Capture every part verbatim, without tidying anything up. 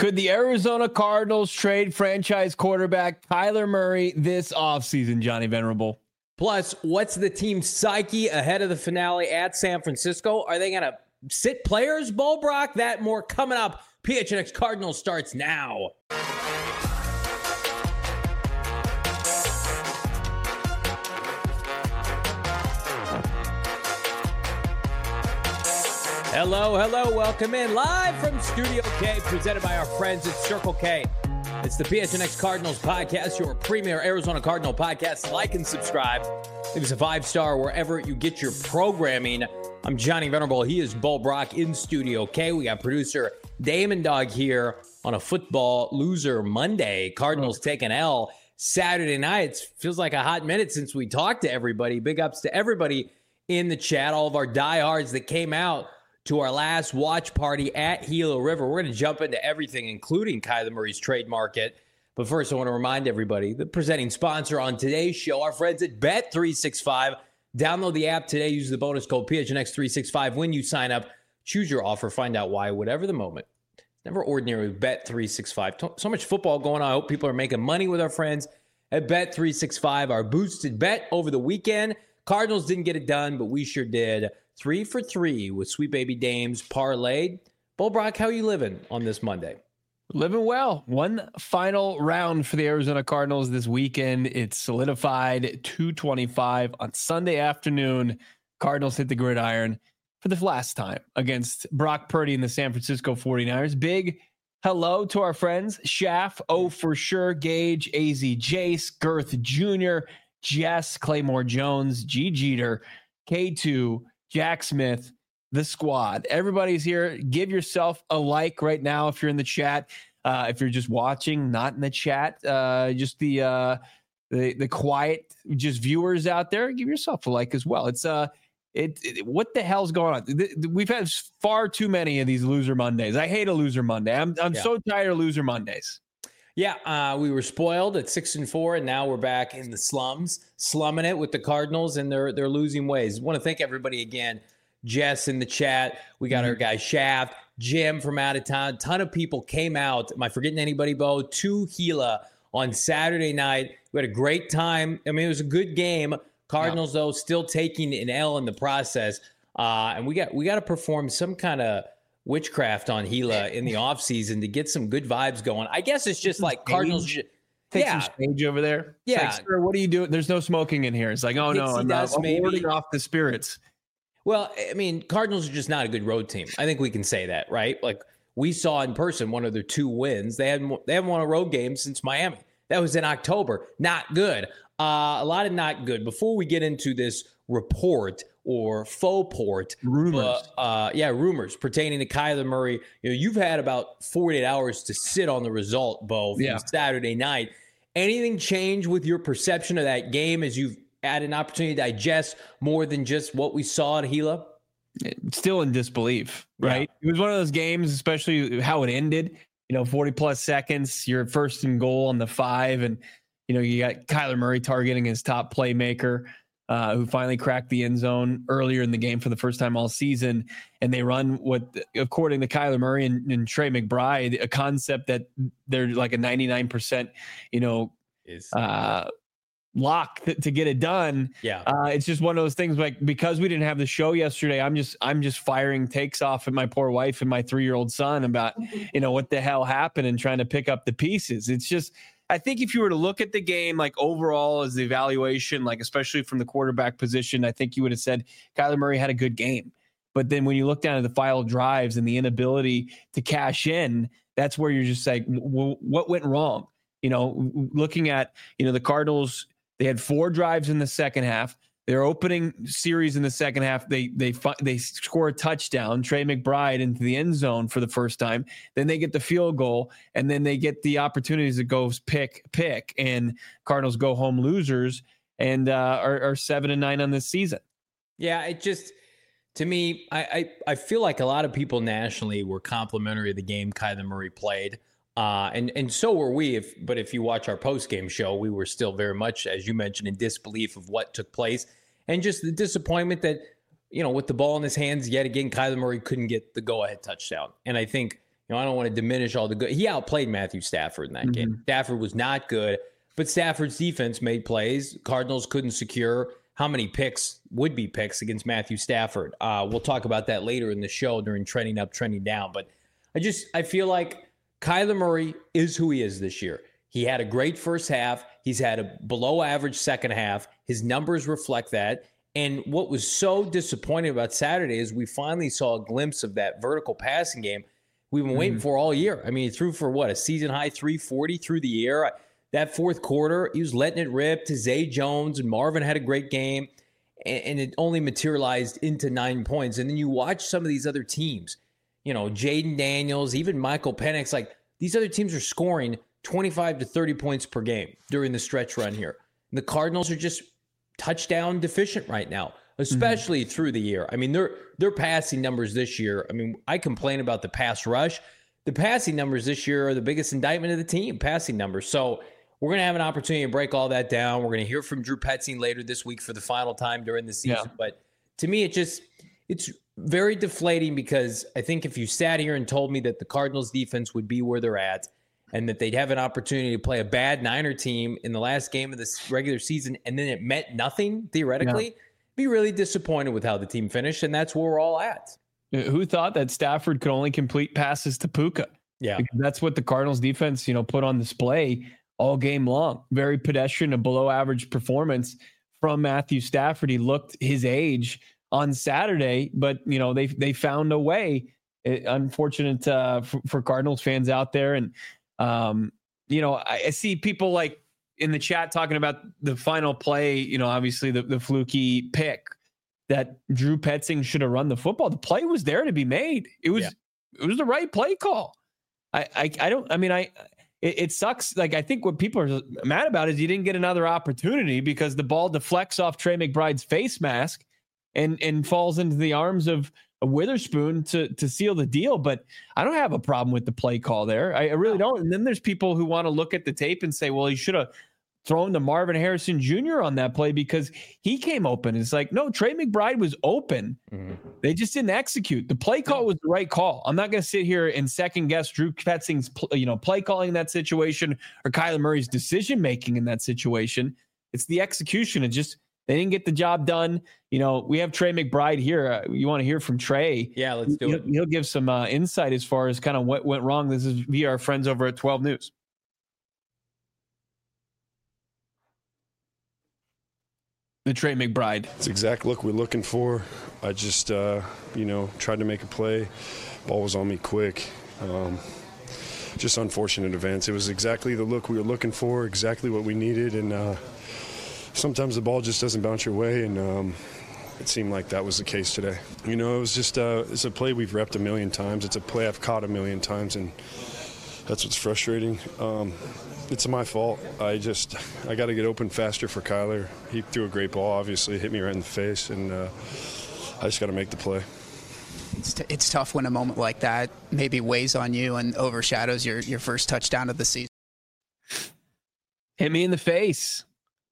Could the Arizona Cardinals trade franchise quarterback Kyler Murray this offseason, Johnny Venerable? Plus, what's the team's psyche ahead of the finale at San Francisco? Are they going to sit players, Bo Brock? That more coming up. P H N X Cardinals starts now. Hello, hello, welcome in live from Studio K, presented by our friends at Circle K. It's the P H N X Cardinals podcast, your premier Arizona Cardinal podcast. Like and subscribe. Leave us a five-star wherever you get your programming. I'm Johnny Venerable. He is Bo Brock in Studio K. We got producer Damon Dog here on a football loser Monday. Cardinals take an L Saturday night. It feels like a hot minute since we talked to everybody. Big ups to everybody in the chat, all of our diehards that came out to our last watch party at Gila River. We're going to jump into everything, including Kyler Murray's trade market. But first, I want to remind everybody, the presenting sponsor on today's show, our friends at Bet three sixty-five. Download the app today. Use the bonus code P H N X three sixty-five when you sign up. Choose your offer. Find out why, whatever the moment. Never ordinary with Bet three sixty-five. So much football going on. I hope people are making money with our friends at Bet three sixty-five. Our boosted bet over the weekend. Cardinals didn't get it done, but we sure did. Three for three with Sweet Baby Dame's parlayed. Bo Brock, how are you living on this Monday? Living well. One final round for the Arizona Cardinals this weekend. It's solidified two twenty-five on Sunday afternoon. Cardinals hit the gridiron for the last time against Brock Purdy and the San Francisco forty-niners. Big hello to our friends. Schaff, Oh For Sure, Gage, A Z Jace, Girth Junior, Jess, Claymore Jones, G Jeter, K two, Jack Smith, the squad. Everybody's here. Give yourself a like right now if you're in the chat. Uh, if you're just watching, not in the chat, uh, just the uh, the the quiet, just viewers out there, give yourself a like as well. It's uh, it, it what the hell's going on? We've had far too many of these loser Mondays. I hate a loser Monday. I'm I'm yeah. so tired of loser Mondays. Yeah, uh, we were spoiled at six and four, and now we're back in the slums, slumming it with the Cardinals and their their losing ways. I want to thank everybody again. Jess in the chat. We got mm-hmm. our guy Shaft, Jim from out of town. Ton of people came out. Am I forgetting anybody, Bo? To Gila on Saturday night. We had a great time. I mean, it was a good game. Cardinals, yeah. though, still taking an L in the process. Uh, and we got we got to perform some kind of witchcraft on Gila in the offseason to get some good vibes going. I guess it's just like Cardinals. Take yeah. some stage over there. Yeah. Like, sir, what are you doing? There's no smoking in here. It's like, oh, no, I'm not warding off the spirits. Well, I mean, Cardinals are just not a good road team. I think we can say that, right? Like we saw in person one of their two wins. They hadn't they haven't won a road game since Miami. That was in October. Not good. Uh, a lot of not good. Before we get into this report or faux port, rumors, uh, uh, yeah, rumors pertaining to Kyler Murray. You know, you've had about forty-eight hours to sit on the result, Bo, from yeah. Saturday night. Anything change with your perception of that game as you've had an opportunity to digest more than just what we saw at Gila? Still in disbelief, right? Yeah. It was one of those games, especially how it ended, you know, forty plus seconds, you're first and goal on the five. And, you know, you got Kyler Murray targeting his top playmaker, uh, who finally cracked the end zone earlier in the game for the first time all season. And they run what, according to Kyler Murray and, and Trey McBride, a concept that they're like a ninety-nine percent, you know, is uh, lock th- to get it done. Yeah. Uh, it's just one of those things like, because we didn't have the show yesterday, I'm just, I'm just firing takes off at my poor wife and my three-year-old son about, you know, what the hell happened and trying to pick up the pieces. It's just, I think if you were to look at the game, like overall as the evaluation, like especially from the quarterback position, I think you would have said Kyler Murray had a good game. But then when you look down at the final drives and the inability to cash in, that's where you're just like, well, what went wrong? You know, looking at, you know, the Cardinals, they had four drives in the second half. Their opening series in the second half, they they they score a touchdown, Trey McBride into the end zone for the first time. Then they get the field goal, and then they get the opportunities to go pick, pick, and Cardinals go home losers and uh, are, are seven and nine on this season. Yeah, it just, to me, I, I, I feel like a lot of people nationally were complimentary of the game Kyler Murray played. Uh, and, and so were we. If, but if you watch our post-game show, we were still very much, as you mentioned, in disbelief of what took place. And just the disappointment that, you know, with the ball in his hands, yet again, Kyler Murray couldn't get the go-ahead touchdown. And I think, know, I don't want to diminish all the good. He outplayed Matthew Stafford in that mm-hmm. game. Stafford was not good, but Stafford's defense made plays. Cardinals couldn't secure how many picks would be picks against Matthew Stafford. Uh, we'll talk about that later in the show during trending up, trending down. But I just, I feel like Kyler Murray is who he is this year. He had a great first half. He's had a below average second half. His numbers reflect that. And what was so disappointing about Saturday is we finally saw a glimpse of that vertical passing game we've been waiting mm-hmm. for all year. I mean, he threw for what, a season high three forty through the air. That fourth quarter, he was letting it rip to Zay Jones, and Marvin had a great game, and, and it only materialized into nine points. And then you watch some of these other teams, you know, Jaden Daniels, even Michael Penix, like these other teams are scoring twenty-five to thirty points per game during the stretch run here. And the Cardinals are just touchdown deficient right now, especially mm-hmm. through the year. I mean, their their passing numbers this year, I mean, I complain about the pass rush. The passing numbers this year are the biggest indictment of the team, passing numbers. So we're going to have an opportunity to break all that down. We're going to hear from Drew Petzing later this week for the final time during the season. Yeah. But to me, it just, it's very deflating because I think if you sat here and told me that the Cardinals defense would be where they're at and that they'd have an opportunity to play a bad Niner team in the last game of this regular season and then it meant nothing, theoretically, yeah. be really disappointed with how the team finished. And that's where we're all at. Who thought that Stafford could only complete passes to Puka? Yeah. Because that's what the Cardinals defense, you know, put on display all game long. Very pedestrian, a below average performance from Matthew Stafford. He looked his age on Saturday, but you know, they, they found a way. It, unfortunate uh, for, for Cardinals fans out there. And, um, you know, I, I see people like in the chat talking about the final play, you know, obviously the, the fluky pick that Drew Petzing should have run the football. The play was there to be made. It was, yeah. it was the right play call. I, I, I don't, I mean, I, it, it sucks. Like, I think what people are mad about is you didn't get another opportunity because the ball deflects off Trey McBride's face mask and, and falls into the arms of a Witherspoon to, to seal the deal. But I don't have a problem with the play call there. I, I really don't. And then there's people who want to look at the tape and say, well, he should have thrown to Marvin Harrison Junior on that play because he came open. It's like, no, Trey McBride was open. Mm-hmm. They just didn't execute. The play call was the right call. I'm not going to sit here and second guess Drew Petzing's, you know, play calling in that situation or Kyler Murray's decision making in that situation. It's the execution. It just, they didn't get the job done. You know, we have Trey McBride here. Uh, you want to hear from Trey? Yeah, let's do he'll, it. He'll give some uh, insight as far as kind of what went wrong. This is via our friends over at twelve News. The Trey McBride. It's the exact look we're looking for. I just, uh, you know, tried to make a play. Ball was on me quick. Um, just unfortunate events. It was exactly the look we were looking for, exactly what we needed. And uh, sometimes the ball just doesn't bounce your way. And um, it seemed like that was the case today. You know, it was just, uh, it's a play we've repped a million times. It's a play I've caught a million times. And that's what's frustrating. Um, It's my fault. I just, I got to get open faster for Kyler. He threw a great ball, obviously, hit me right in the face, and uh, I just got to make the play. It's, t- it's tough when a moment like that maybe weighs on you and overshadows your, your first touchdown of the season. Hit me in the face.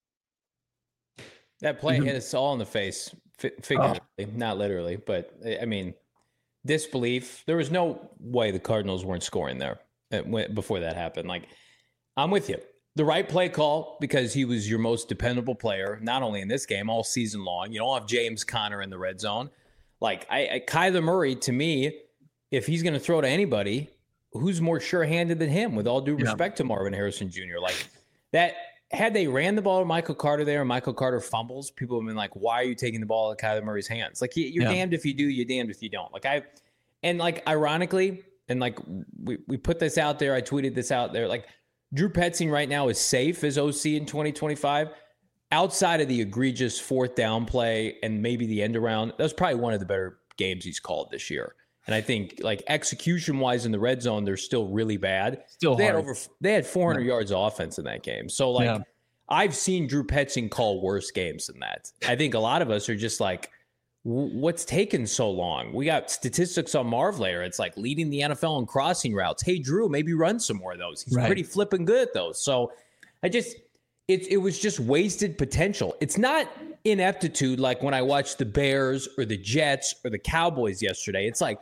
That play mm-hmm. hit us all in the face, f- figuratively, oh. not literally. But, I mean, disbelief. There was no way the Cardinals weren't scoring there before that happened. Like, I'm with you. The right play call because he was your most dependable player, not only in this game, all season long. You don't have James Conner in the red zone. Like, I, I Kyler Murray, to me, if he's going to throw to anybody, who's more sure-handed than him, with all due respect yeah. to Marvin Harrison Junior? Like, that, had they ran the ball to Michael Carter there and Michael Carter fumbles, people have been like, why are you taking the ball out of Kyler Murray's hands? Like, you're yeah. damned if you do, you're damned if you don't. Like, I, and like, ironically, and like, we, we put this out there, I tweeted this out there, like, Drew Petzing right now is safe as O C in twenty twenty-five. Outside of the egregious fourth down play and maybe the end around, that was probably one of the better games he's called this year. And I think, like, execution-wise in the red zone, they're still really bad. Still they hard. had over they had four hundred yeah. yards of offense in that game. So, like, yeah. I've seen Drew Petzing call worse games than that. I think a lot of us are just like, what's taken so long? We got statistics on Marv later. It's like leading the N F L in crossing routes. Hey, Drew, maybe run some more of those. He's right. pretty flipping good at those. So I just, it, it was just wasted potential. It's not ineptitude like when I watched the Bears or the Jets or the Cowboys yesterday. It's like,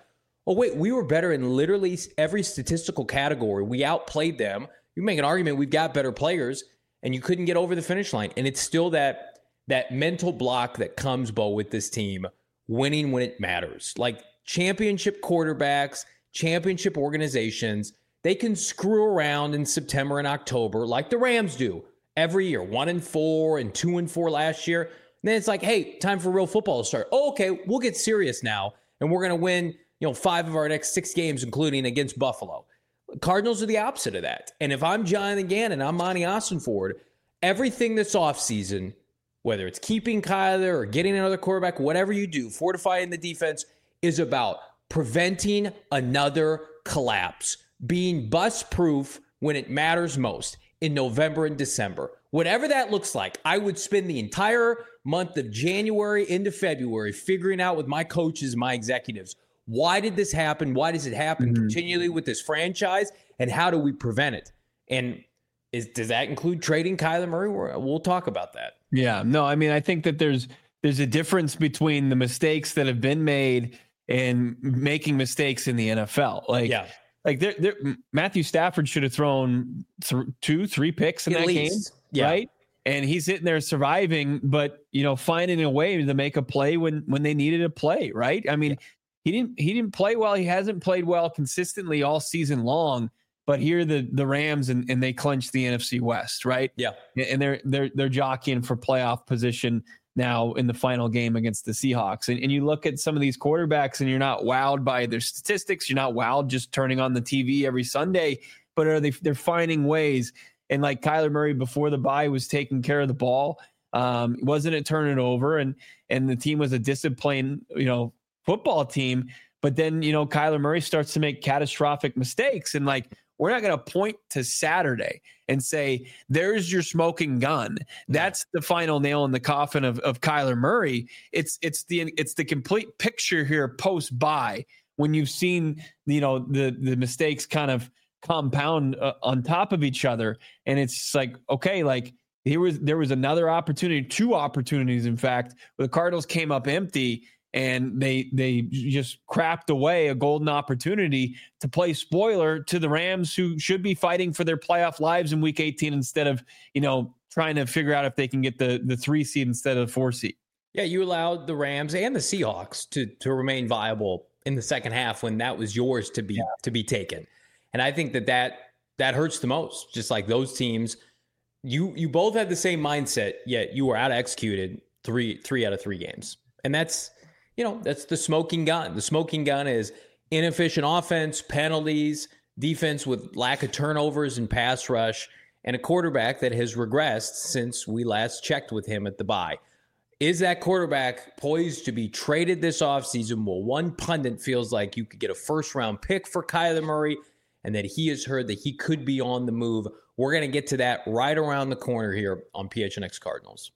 oh, wait, we were better in literally every statistical category. We outplayed them. You make an argument we've got better players, and you couldn't get over the finish line. And it's still that that mental block that comes, Bo, with this team, winning when it matters. Like championship quarterbacks, championship organizations, they can screw around in September and October like the Rams do every year, one and four and two and four last year. And then it's like, hey, time for real football to start. Oh, okay, we'll get serious now, and we're going to win, you know, five of our next six games, including against Buffalo. Cardinals are the opposite of that. And if I'm Jonathan Gannon, I'm Monty Ossenford, everything this offseason, whether it's keeping Kyler or getting another quarterback, whatever you do, fortifying the defense, is about preventing another collapse, being bust-proof when it matters most in November and December. Whatever that looks like, I would spend the entire month of January into February figuring out with my coaches, my executives, why did this happen? Why does it happen mm-hmm. continually with this franchise? And how do we prevent it? And is, does that include trading Kyler Murray? We'll talk about that. Yeah, no, I mean, I think that there's there's a difference between the mistakes that have been made and making mistakes in the N F L. Like, yeah. like they're, they're, Matthew Stafford should have thrown th- two, three picks in At that least. game, yeah. right? And he's sitting there surviving, but you know, finding a way to make a play when when they needed a play, right? I mean. Yeah. He didn't. He didn't play well. He hasn't played well consistently all season long. But here the the Rams and, and they clinched the N F C West, right? Yeah. And they're they're they're jockeying for playoff position now in the final game against the Seahawks. And and you look at some of these quarterbacks and you're not wowed by their statistics. You're not wowed just turning on the T V every Sunday. But are they? They're finding ways. And like Kyler Murray before the bye was taking care of the ball. Um, wasn't it turning it over? And and the team was a disciplined, you know, football team, but then, you know, Kyler Murray starts to make catastrophic mistakes. And like, we're not going to point to Saturday and say, there's your smoking gun. That's the final nail in the coffin of, of Kyler Murray. It's, it's the, it's the complete picture here post bye when you've seen, you know, the, the mistakes kind of compound uh, on top of each other. And it's like, okay, like here was, there was another opportunity, two opportunities, in fact, where the Cardinals came up empty. And they they just crapped away a golden opportunity to play spoiler to the Rams, who should be fighting for their playoff lives in week eighteen instead of, you know, trying to figure out if they can get the, the three seed instead of the four seed. Yeah, you allowed the Rams and the Seahawks to to remain viable in the second half when that was yours to be yeah. to be taken. And I think that, that that hurts the most. Just like those teams, you you both had the same mindset, yet you were out executed three three out of three games. And that's You know, that's the smoking gun. The smoking gun is inefficient offense, penalties, defense with lack of turnovers and pass rush, and a quarterback that has regressed since we last checked with him at the bye. Is that quarterback poised to be traded this offseason? Well, one pundit feels like you could get a first-round pick for Kyler Murray, and that he has heard that he could be on the move. We're going to get to that right around the corner here on P H N X Cardinals.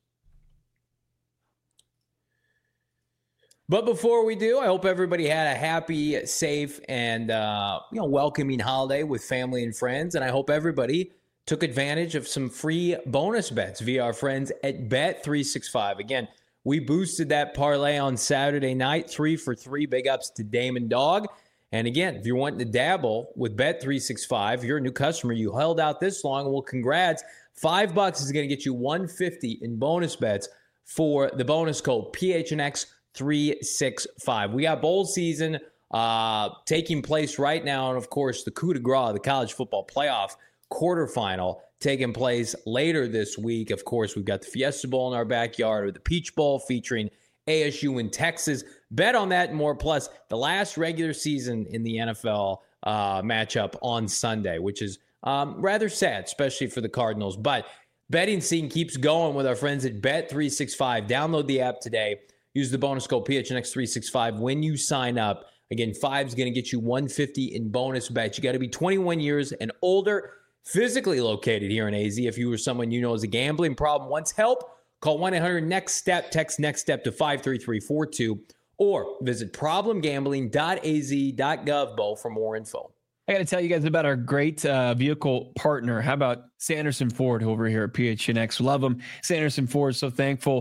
But before we do, I hope everybody had a happy, safe, and uh, you know, welcoming holiday with family and friends. And I hope everybody took advantage of some free bonus bets via our friends at Bet three sixty-five. Again, we boosted that parlay on Saturday night, three for three. Big ups to Damon Dog. And again, if you're wanting to dabble with Bet three sixty-five, you're a new customer, you held out this long, well, congrats. Five bucks is going to get you one hundred fifty in bonus bets for the bonus code P H N X three sixty-five. We got bowl season uh, taking place right now. And of course, the coup de grace, the college football playoff quarterfinal, taking place later this week. Of course, we've got the Fiesta Bowl in our backyard, or the Peach Bowl featuring A S U in Texas. Bet on that and more. Plus, the last regular season in the N F L uh, matchup on Sunday, which is um, rather sad, especially for the Cardinals. But betting scene keeps going with our friends at Bet three sixty-five. Download the app today. Use the bonus code P H N X three sixty-five when you sign up. Again, five's going to get you one hundred fifty in bonus bets. You got to be twenty-one years and older, physically located here in A Z. If you or someone you know has a gambling problem, wants help, call one eight hundred next step, text NEXTSTEP to five three three four two, or visit problem gambling dot a z dot gov, Bo, for more info. I got to tell you guys about our great uh, vehicle partner. How about Sanderson Ford over here at P H N X? Love them. Sanderson Ford, so thankful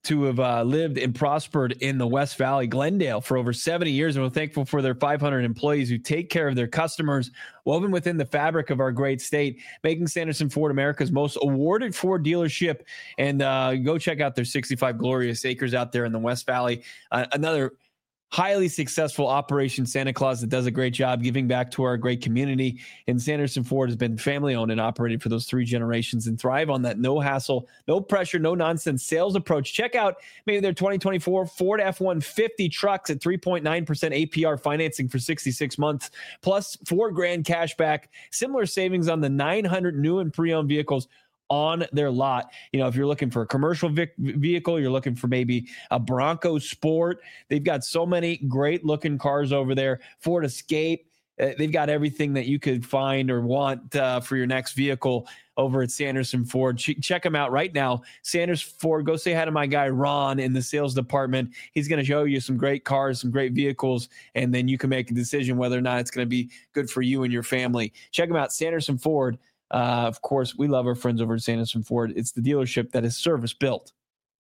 to have uh, lived and prospered in the West Valley, Glendale, for over seventy years. And we're thankful for their five hundred employees who take care of their customers, woven within the fabric of our great state, making Sanderson Ford America's most awarded Ford dealership. And uh, go check out their sixty-five glorious acres out there in the West Valley. Uh, another highly successful Operation Santa Claus that does a great job giving back to our great community. And Sanderson Ford has been family owned and operated for those three generations and thrive on that no hassle, no pressure, no nonsense sales approach. Check out maybe their twenty twenty-four Ford F one fifty trucks at three point nine percent A P R financing for sixty-six months, plus four grand cash back, similar savings on the nine hundred new and pre-owned vehicles on their lot. You know, if you're looking for a commercial vic- vehicle, you're looking for maybe a Bronco Sport. They've got so many great looking cars over there. Ford Escape. Uh, they've got everything that you could find or want uh, for your next vehicle over at Sanderson Ford. Ch- check them out right now. Sanders Ford. Go say hi to my guy Ron in the sales department. He's going to show you some great cars, some great vehicles, and then you can make a decision whether or not it's going to be good for you and your family. Check them out, Sanderson Ford. Uh, of course, we love our friends over at Sanderson Ford. It's the dealership that is service built.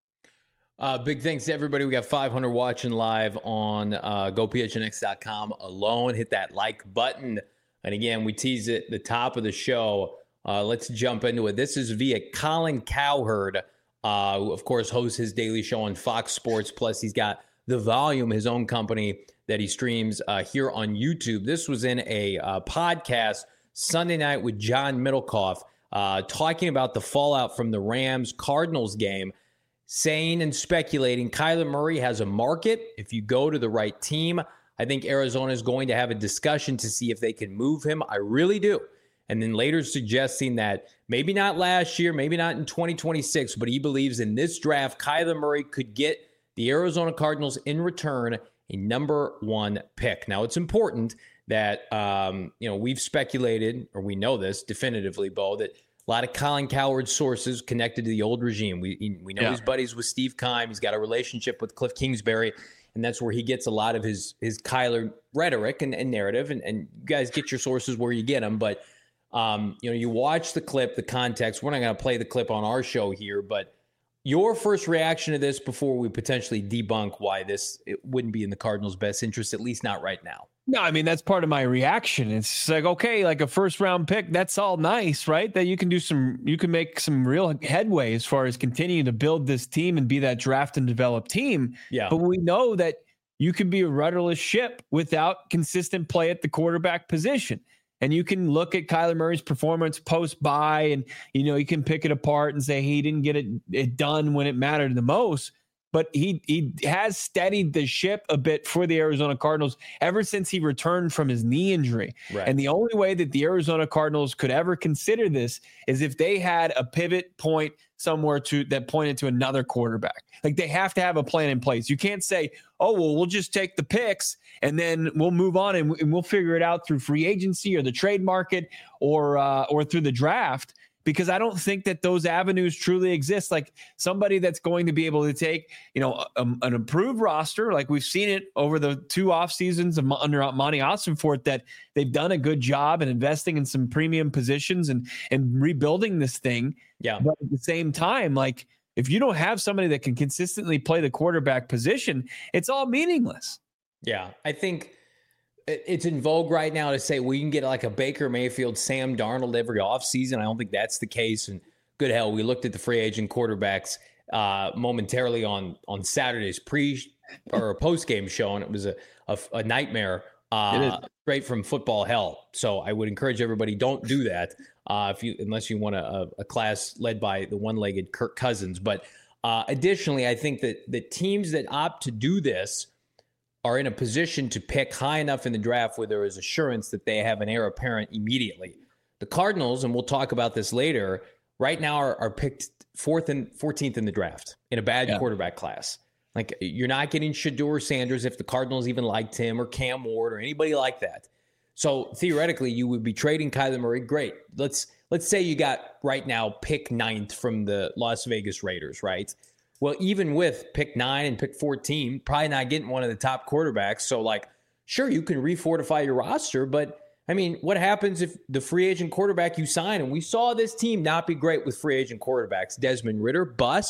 Uh, big thanks to everybody. We got five hundred watching live on uh, go P H N X dot com alone. Hit that like button. And again, we tease it at the top of the show. Uh, let's jump into it. This is via Colin Cowherd, uh, who, of course, hosts his daily show on Fox Sports. Plus, he's got The Volume, his own company that he streams uh, here on YouTube. This was in a uh, podcast Sunday night with John Middlecoff, uh, talking about the fallout from the Rams-Cardinals game, saying and speculating Kyler Murray has a market if you go to the right team. I think Arizona is going to have a discussion to see if they can move him. I really do. And then later suggesting that maybe not last year, maybe not in twenty twenty-six, but he believes in this draft, Kyler Murray could get the Arizona Cardinals in return a number one pick. Now, it's important that, um, you know, we've speculated, or we know this definitively, Bo, that a lot of Colin Cowherd sources connected to the old regime. We we know yeah. he's buddies with Steve Keim. He's got a relationship with Cliff Kingsbury, and that's where he gets a lot of his his Kyler rhetoric and, and narrative. And, and you guys get your sources where you get them. But, um, you know, you watch the clip, the context. We're not going to play the clip on our show here, but your first reaction to this before we potentially debunk why this it wouldn't be in the Cardinals' best interest, at least not right now. No, I mean, that's part of my reaction. It's like, okay, like a first round pick, that's all nice, right? That you can do some, you can make some real headway as far as continuing to build this team and be that draft and develop team. Yeah. But we know that you can be a rudderless ship without consistent play at the quarterback position. And you can look at Kyler Murray's performance post-bye and, you know, you can pick it apart and say he didn't get it, it done when it mattered the most. But he he has steadied the ship a bit for the Arizona Cardinals ever since he returned from his knee injury. Right. And the only way that the Arizona Cardinals could ever consider this is if they had a pivot point somewhere to that pointed to another quarterback. Like they have to have a plan in place. You can't say, oh, well, we'll just take the picks and then we'll move on and, and we'll figure it out through free agency or the trade market or uh, or through the draft. Because I don't think that those avenues truly exist. Like somebody that's going to be able to take, you know, a, an improved roster, like we've seen it over the two off seasons of, under Monty Ossenfort, that they've done a good job in investing in some premium positions and and rebuilding this thing. Yeah. But at the same time, like if you don't have somebody that can consistently play the quarterback position, it's all meaningless. Yeah, I think it's in vogue right now to say we can get like a Baker Mayfield, Sam Darnold every offseason. I don't think that's the case. And good hell, we looked at the free agent quarterbacks uh, momentarily on on Saturday's pre or post game show, and it was a a, a nightmare uh, straight from football hell. So I would encourage everybody, don't do that uh, if you unless you want a, a class led by the one-legged Kirk Cousins. But uh, additionally, I think that the teams that opt to do this are in a position to pick high enough in the draft where there is assurance that they have an heir apparent immediately. The Cardinals, and we'll talk about this later, right now are, are picked fourth and fourteenth in the draft in a bad yeah. quarterback class. Like you're not getting Shedeur Sanders if the Cardinals even liked him, or Cam Ward or anybody like that. So theoretically, you would be trading Kyler Murray. Great. Let's let's say you got right now pick ninth from the Las Vegas Raiders, right? Well, even with pick nine and pick fourteen, probably not getting one of the top quarterbacks. So, like, sure, you can refortify your roster, but, I mean, what happens if the free agent quarterback you sign, and we saw this team not be great with free agent quarterbacks, Desmond Ridder, bust,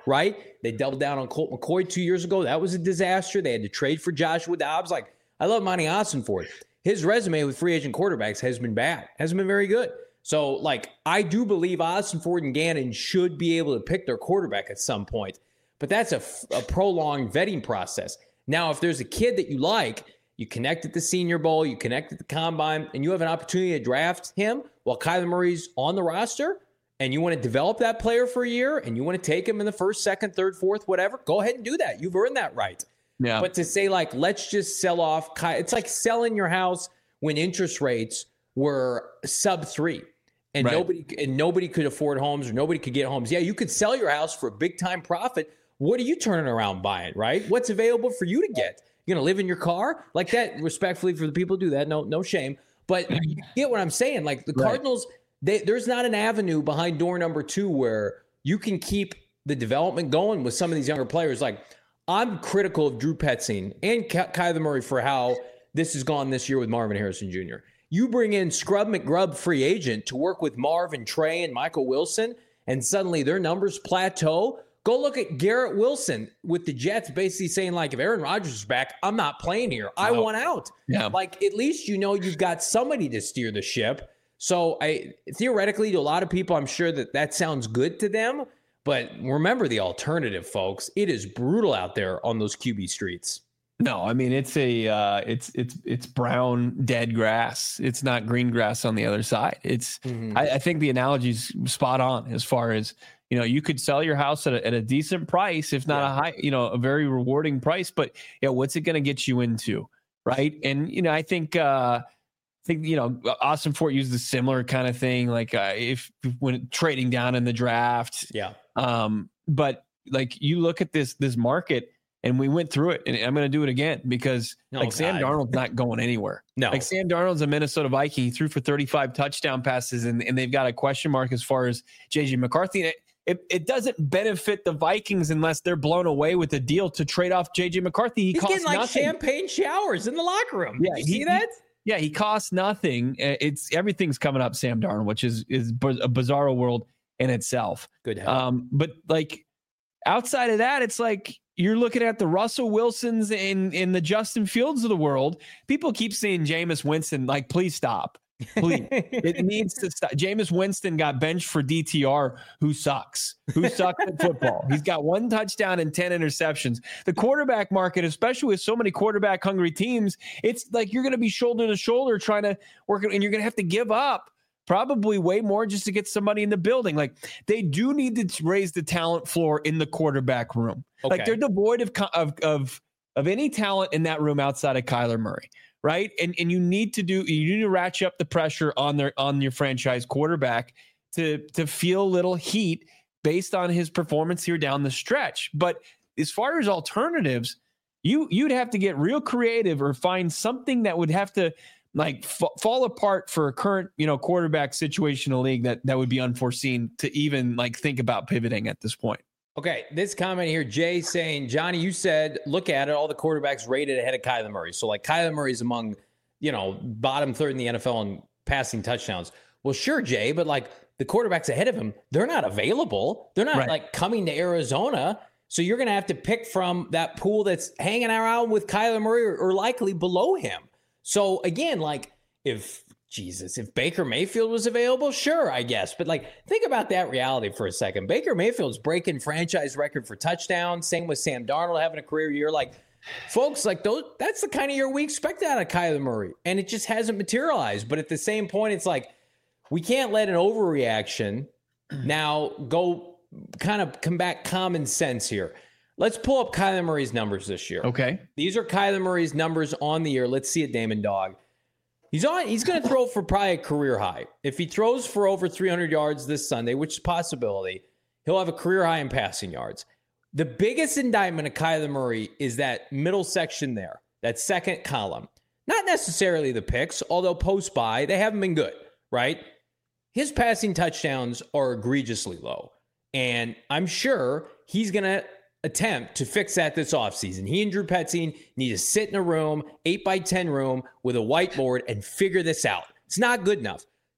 right? They doubled down on Colt McCoy two years ago. That was a disaster. They had to trade for Joshua Dobbs. Like, I love Monty Ossenfort. His resume with free agent quarterbacks has been bad, hasn't been very good. So, like, I do believe Ossenfort and Gannon should be able to pick their quarterback at some point. But that's a, a prolonged vetting process. Now, if there's a kid that you like, you connect at the Senior Bowl, you connect at the Combine, and you have an opportunity to draft him while Kyler Murray's on the roster, and you want to develop that player for a year, and you want to take him in the first, second, third, fourth, whatever, go ahead and do that. You've earned that right. Yeah. But to say, like, let's just sell off Ky- – it's like selling your house when interest rates were sub three. And right. nobody and nobody could afford homes or nobody could get homes. Yeah, you could sell your house for a big-time profit. What are you turning around buying, right? What's available for you to get? You're going to live in your car? Like that, respectfully, for the people who do that, no no shame. But you get what I'm saying. Like the Cardinals, they, there's not an avenue behind door number two where you can keep the development going with some of these younger players. Like I'm critical of Drew Petzing and Ky- Kyler Murray for how this has gone this year with Marvin Harrison Junior You bring in Scrub McGrub, free agent, to work with Marv and Trey and Michael Wilson, and suddenly their numbers plateau. Go look at Garrett Wilson with the Jets basically saying, like, if Aaron Rodgers is back, I'm not playing here. I no. want out. Yeah. Like, at least you know you've got somebody to steer the ship. So, I theoretically, to a lot of people, I'm sure that that sounds good to them. But remember the alternative, folks. It is brutal out there on those Q B streets. No, I mean, it's a uh, it's it's it's brown dead grass. It's not green grass on the other side. It's mm-hmm. I, I think the analogy's spot on as far as, you know, you could sell your house at a, at a decent price, if not yeah. a high, you know, a very rewarding price. But yeah, what's it going to get you into, right? And you know, I think uh, I think you know, Ossenfort used a similar kind of thing, like uh, if when trading down in the draft. Yeah. Um, but like you look at this this market. And we went through it, and I'm going to do it again because oh, like God. Sam Darnold's not going anywhere. No, like Sam Darnold's a Minnesota Viking. He threw for thirty-five touchdown passes, and, and they've got a question mark as far as J J McCarthy. And it, it it doesn't benefit the Vikings unless they're blown away with a deal to trade off J J McCarthy. He He's costs getting like nothing. champagne showers in the locker room. Yeah, Did you he, see that? He, yeah, he costs nothing. It's everything's coming up Sam Darnold, which is is a bizarro world in itself. Good. Help. Um, but like outside of that, it's like. You're looking at the Russell Wilsons and in the Justin Fields of the world. People keep saying Jameis Winston, like, please stop. Please. It needs to stop. Jameis Winston got benched for D T R, who sucks, who sucks at football. He's got one touchdown and ten interceptions. The quarterback market, especially with so many quarterback hungry teams, it's like you're going to be shoulder to shoulder trying to work, and you're going to have to give up probably way more just to get somebody in the building. Like they do need to raise the talent floor in the quarterback room. Okay. Like they're devoid of, of of of any talent in that room outside of Kyler Murray, right? And and you need to do you need to ratchet up the pressure on their on your franchise quarterback to to feel a little heat based on his performance here down the stretch. But as far as alternatives, you you'd have to get real creative or find something that would have to like f- fall apart for a current, you know, quarterback situation in the league that that would be unforeseen to even like think about pivoting at this point. Okay, this comment here, Jay saying, Johnny, you said, look at it, all the quarterbacks rated ahead of Kyler Murray. So like Kyler Murray's among, you know, bottom third in the N F L in passing touchdowns. Well, sure, Jay, but like the quarterbacks ahead of him, they're not available. They're not right. like coming to Arizona. So you're going to have to pick from that pool that's hanging around with Kyler Murray or, or likely below him. So again, like if Jesus, if Baker Mayfield was available, sure, I guess. But like, think about that reality for a second. Baker Mayfield's breaking franchise record for touchdowns. Same with Sam Darnold having a career year. Like, folks, like those, that's the kind of year we expect out of Kyler Murray. And it just hasn't materialized. But at the same point, it's like, we can't let an overreaction now go kind of come back common sense here. Let's pull up Kyler Murray's numbers this year. Okay. These are Kyler Murray's numbers on the year. Let's see it, Damon Dog. He's on. He's going to throw for probably a career high. If he throws for over three hundred yards this Sunday, which is a possibility, he'll have a career high in passing yards. The biggest indictment of Kyler Murray is that middle section there, that second column. Not necessarily the picks, although post-buy, they haven't been good, right? His passing touchdowns are egregiously low. And I'm sure he's going to attempt to fix that this offseason. He and Drew Petzing need to sit in a room, eight by ten room with a whiteboard and figure this out. It's not good enough.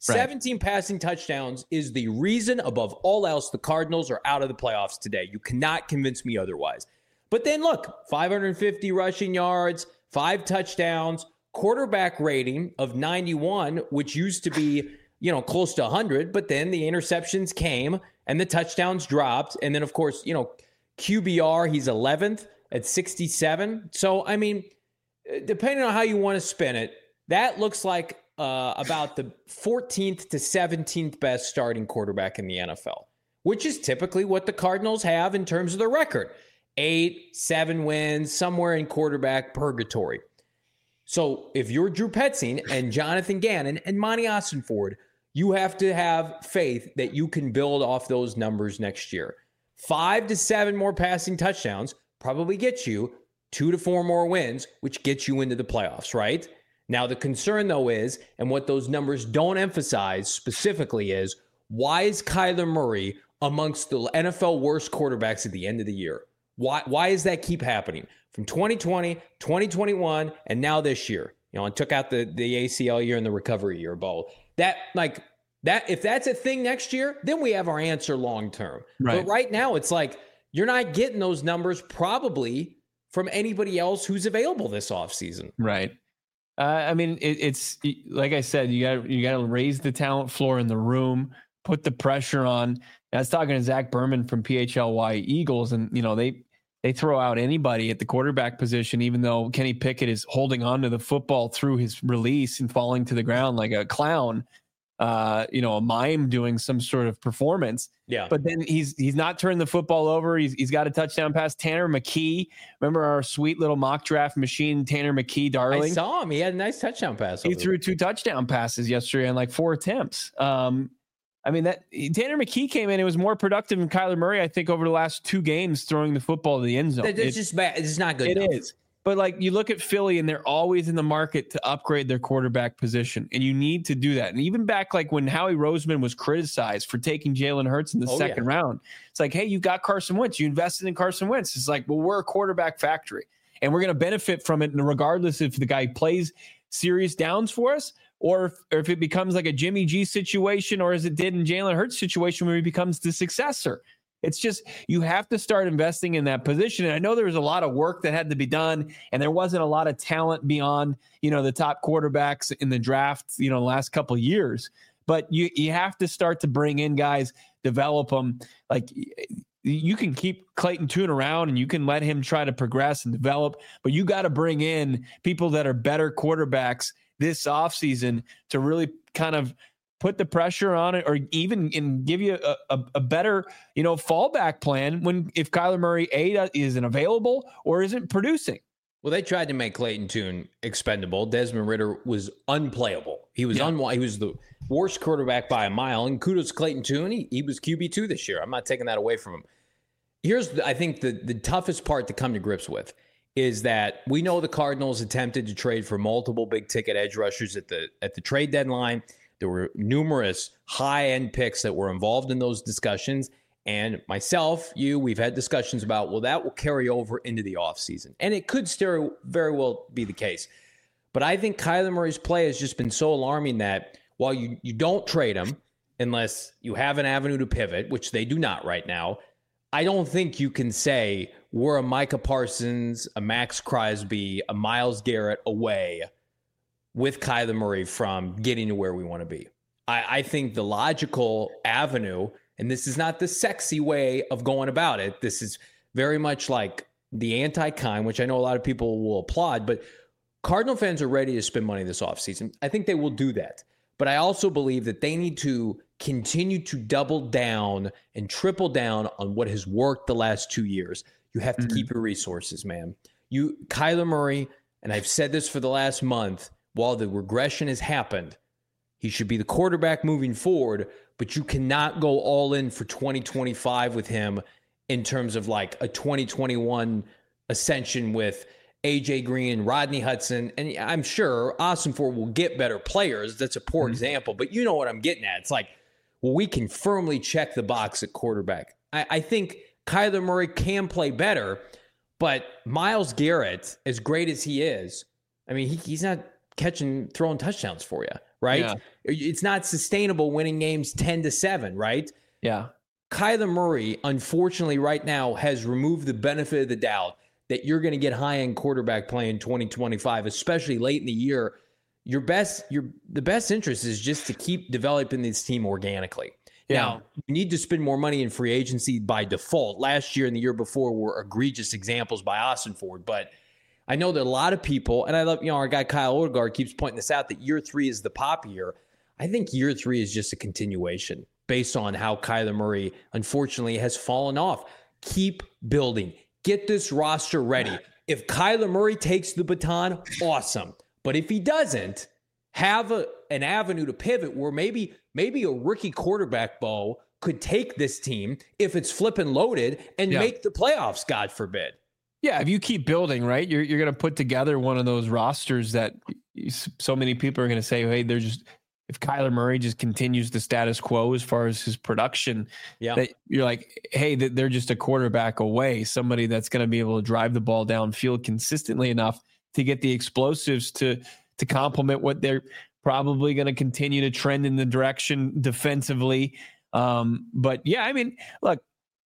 Right. seventeen passing touchdowns is the reason above all else the Cardinals are out of the playoffs today. You cannot convince me otherwise. But then look, five hundred fifty rushing yards, five touchdowns, quarterback rating of ninety-one, which used to be, you know, close to one hundred, but then the interceptions came and the touchdowns dropped. And then, of course, you know, Q B R, he's eleventh at sixty-seven. So, I mean, depending on how you want to spin it, that looks like uh, about the fourteenth to seventeenth best starting quarterback in the N F L, which is typically what the Cardinals have in terms of the record. Eight, seven wins, somewhere in quarterback purgatory. So if you're Drew Petzing and Jonathan Gannon and Monty Ossenford, you have to have faith that you can build off those numbers next year. Five to seven more passing touchdowns probably gets you two to four more wins, which gets you into the playoffs, right? Now, the concern, though, is, and what those numbers don't emphasize specifically is, why is Kyler Murray amongst the N F L worst quarterbacks at the end of the year? Why, why does that keep happening? From twenty twenty, twenty twenty-one, and now this year, you know, and took out the, the A C L year and the recovery year, Bo. That, like, that, if that's a thing next year, then we have our answer long term. Right. But right now, it's like, you're not getting those numbers probably from anybody else who's available this offseason. Right. Uh, I mean, it, it's like I said, you got you got to raise the talent floor in the room, put the pressure on. I was talking to Zach Berman from P H L Y Eagles, and you know they they throw out anybody at the quarterback position, even though Kenny Pickett is holding on to the football through his release and falling to the ground like a clown, uh, you know, a mime doing some sort of performance. Yeah. But then he's he's not turning the football over. He's he's got a touchdown pass. Tanner McKee, remember our sweet little mock draft machine, Tanner McKee, darling. I saw him. He had a nice touchdown pass. He threw two touchdown passes yesterday in like four attempts. Um, I mean, that Tanner McKee came in. It was more productive than Kyler Murray, I think, over the last two games throwing the football to the end zone. It's it, just bad. It's not good. It enough. is. But like you look at Philly and they're always in the market to upgrade their quarterback position. And you need to do that. And even back like when Howie Roseman was criticized for taking Jalen Hurts in the oh, second yeah. round, it's like, hey, you got Carson Wentz. You invested in Carson Wentz. It's like, well, we're a quarterback factory and we're going to benefit from it regardless if the guy plays serious downs for us or if, or if it becomes like a Jimmy G situation or as it did in Jalen Hurts situation where he becomes the successor. It's just, you have to start investing in that position. And I know there was a lot of work that had to be done and there wasn't a lot of talent beyond, you know, the top quarterbacks in the draft, you know, the last couple of years, but you, you have to start to bring in guys, develop them. Like you can keep Clayton Tune around and you can let him try to progress and develop, but you got to bring in people that are better quarterbacks this offseason to really kind of put the pressure on it or even and give you a, a, a better, you know, fallback plan when if Kyler Murray A isn't available or isn't producing. Well, they tried to make Clayton Tune expendable. Desmond Ridder was unplayable. He was yeah. un- he was the worst quarterback by a mile. And kudos to Clayton Tune. He, he was Q B two this year. I'm not taking that away from him. Here's, the, I think, the, the toughest part to come to grips with is that we know the Cardinals attempted to trade for multiple big-ticket edge rushers at the at the trade deadline. There were numerous high-end picks that were involved in those discussions. And myself, you, we've had discussions about, well, that will carry over into the offseason. And it could still very well be the case. But I think Kyler Murray's play has just been so alarming that while you, you don't trade him unless you have an avenue to pivot, which they do not right now, I don't think you can say we're a Micah Parsons, a Max Crosby, a Myles Garrett away with Kyler Murray from getting to where we want to be. I, I think the logical avenue, and this is not the sexy way of going about it, this is very much like the anti-kind, which I know a lot of people will applaud, but Cardinal fans are ready to spend money this offseason. I think they will do that. But I also believe that they need to continue to double down and triple down on what has worked the last two years. You have to mm-hmm. keep your resources, man. You, Kyler Murray, and I've said this for the last month, while the regression has happened, he should be the quarterback moving forward, but you cannot go all in for twenty twenty-five with him in terms of like a twenty twenty-one ascension with A J Green, Rodney Hudson, and I'm sure Ossenford will get better players. That's a poor mm-hmm. example, but you know what I'm getting at. It's like, well, we can firmly check the box at quarterback. I, I think Kyler Murray can play better, but Myles Garrett, as great as he is, I mean, he, he's not catching, throwing touchdowns for you, right? Yeah. It's not sustainable winning games ten to seven, right? Yeah. Kyler Murray, unfortunately, right now has removed the benefit of the doubt that you're going to get high-end quarterback play in twenty twenty-five, especially late in the year. Your best, your the best interest is just to keep developing this team organically. Yeah. Now, you need to spend more money in free agency by default. Last year and the year before were egregious examples by Austin Ford, but I know that a lot of people, and I love, you know, our guy Kyle Odegaard keeps pointing this out, that year three is the pop year. I think year three is just a continuation based on how Kyler Murray, unfortunately, has fallen off. Keep building. Get this roster ready. If Kyler Murray takes the baton, awesome. But if he doesn't, have a, an avenue to pivot where maybe maybe a rookie quarterback, Bo, could take this team if it's flipping loaded and yeah. make the playoffs, God forbid. Yeah, if you keep building, right, you're you're going to put together one of those rosters that so many people are going to say, hey, they're just, if Kyler Murray just continues the status quo as far as his production, yeah, that you're like, hey, they're just a quarterback away, somebody that's going to be able to drive the ball downfield consistently enough to get the explosives to to complement what they're probably going to continue to trend in the direction defensively. Um, but yeah, I mean, look,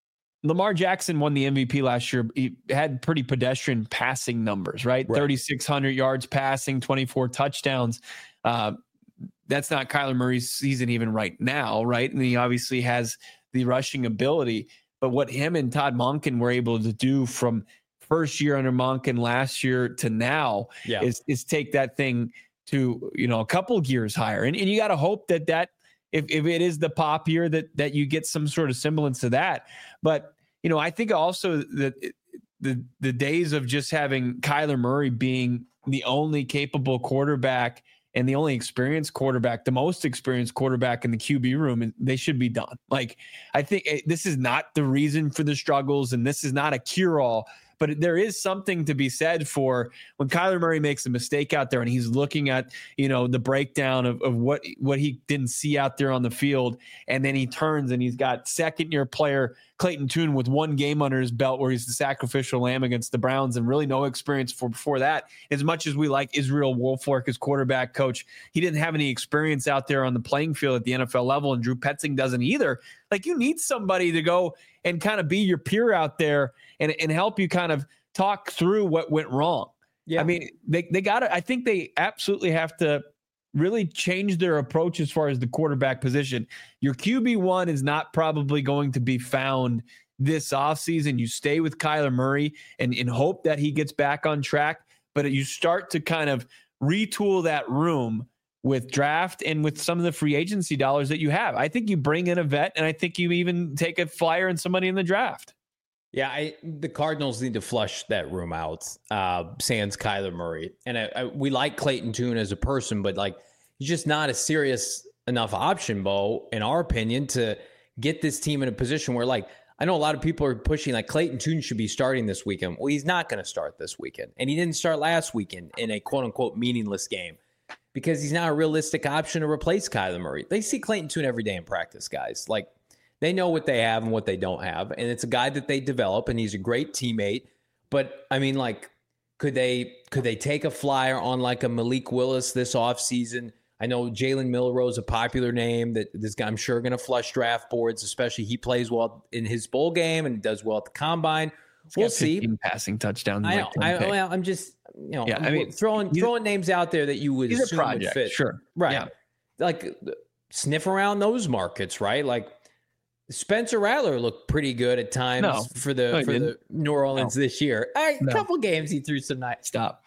Lamar Jackson won the M V P last year. He had pretty pedestrian passing numbers, right? right. thirty-six hundred yards passing, twenty-four touchdowns. Uh, that's not Kyler Murray's season even right now, right? And he obviously has the rushing ability. But what him and Todd Monken were able to do from first year under Monken last year to now yeah. is, is take that thing to, you know, a couple gears higher. And, and you got to hope that that, if, if it is the pop year, that that you get some sort of semblance of that. But, you know, I think also that the the days of just having Kyler Murray being the only capable quarterback and the only experienced quarterback, the most experienced quarterback in the Q B room, and they should be done. Like, I think this is not the reason for the struggles, and this is not a cure-all. But there is something to be said for when Kyler Murray makes a mistake out there and he's looking at, you know, the breakdown of, of what, what he didn't see out there on the field. And then he turns and he's got second year player Clayton Tune with one game under his belt where he's the sacrificial lamb against the Browns and really no experience for before that. As much as we like Israel Wolfork as quarterback coach, he didn't have any experience out there on the playing field at the N F L level, and Drew Petzing doesn't either. Like, you need somebody to go and kind of be your peer out there and, and help you kind of talk through what went wrong. Yeah. I mean, they, they got to, I think they absolutely have to really change their approach as far as the quarterback position. Your Q B one is not probably going to be found this offseason. You stay with Kyler Murray and, and hope that he gets back on track, but you start to kind of retool that room with draft and with some of the free agency dollars that you have. I think you bring in a vet, and I think you even take a flyer and somebody in the draft. Yeah, I, the Cardinals need to flush that room out, uh, sans Kyler Murray. And I, I, we like Clayton Tune as a person, but like, he's just not a serious enough option, Bo, in our opinion, to get this team in a position where, like, I know a lot of people are pushing like Clayton Tune should be starting this weekend. Well, he's not going to start this weekend. And he didn't start last weekend in a quote unquote meaningless game because he's not a realistic option to replace Kyler Murray. They see Clayton Tune every day in practice, guys. Like, they know what they have and what they don't have. And it's a guy that they develop, and he's a great teammate. But I mean, like, could they could they take a flyer on like a Malik Willis this offseason? I know Jalen Milroe is a popular name that this guy, I'm sure, going to flush draft boards, especially he plays well in his bowl game and does well at the combine. We'll see. Passing touchdowns. I know. I, well, I'm just, you know, yeah, I mean, throwing throwing names out there that you would assume would fit. Sure. Right. Yeah. Like, sniff around those markets, right? Like, Spencer Rattler looked pretty good at times no, for the no, for didn't. the New Orleans no. this year. All right, a no. couple games he threw some nice. Stop.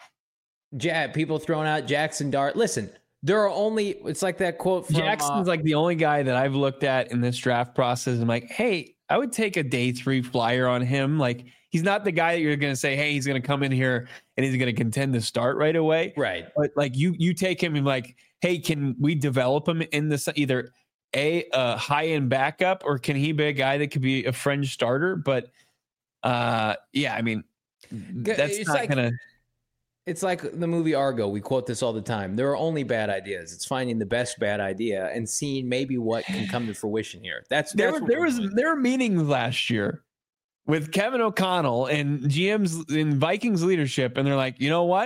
Ja- people throwing out Jackson Dart. Listen, there are only, it's like that quote from Jackson's uh, like the only guy that I've looked at in this draft process. I'm like, hey, I would take a day three flyer on him. Like, he's not the guy that you're going to say, hey, he's going to come in here and he's going to contend to start right away. Right. But like, you you take him and like, hey, can we develop him in this either a, a high end backup, or can he be a guy that could be a fringe starter? But uh, yeah, I mean, that's it's not like, gonna. It's like the movie Argo. We quote this all the time. There are only bad ideas. It's finding the best bad idea and seeing maybe what can come to fruition here. That's, there. that's There was doing. there were meetings last year with Kevin O'Connell and G Ms in Vikings leadership, and they're like, you know what?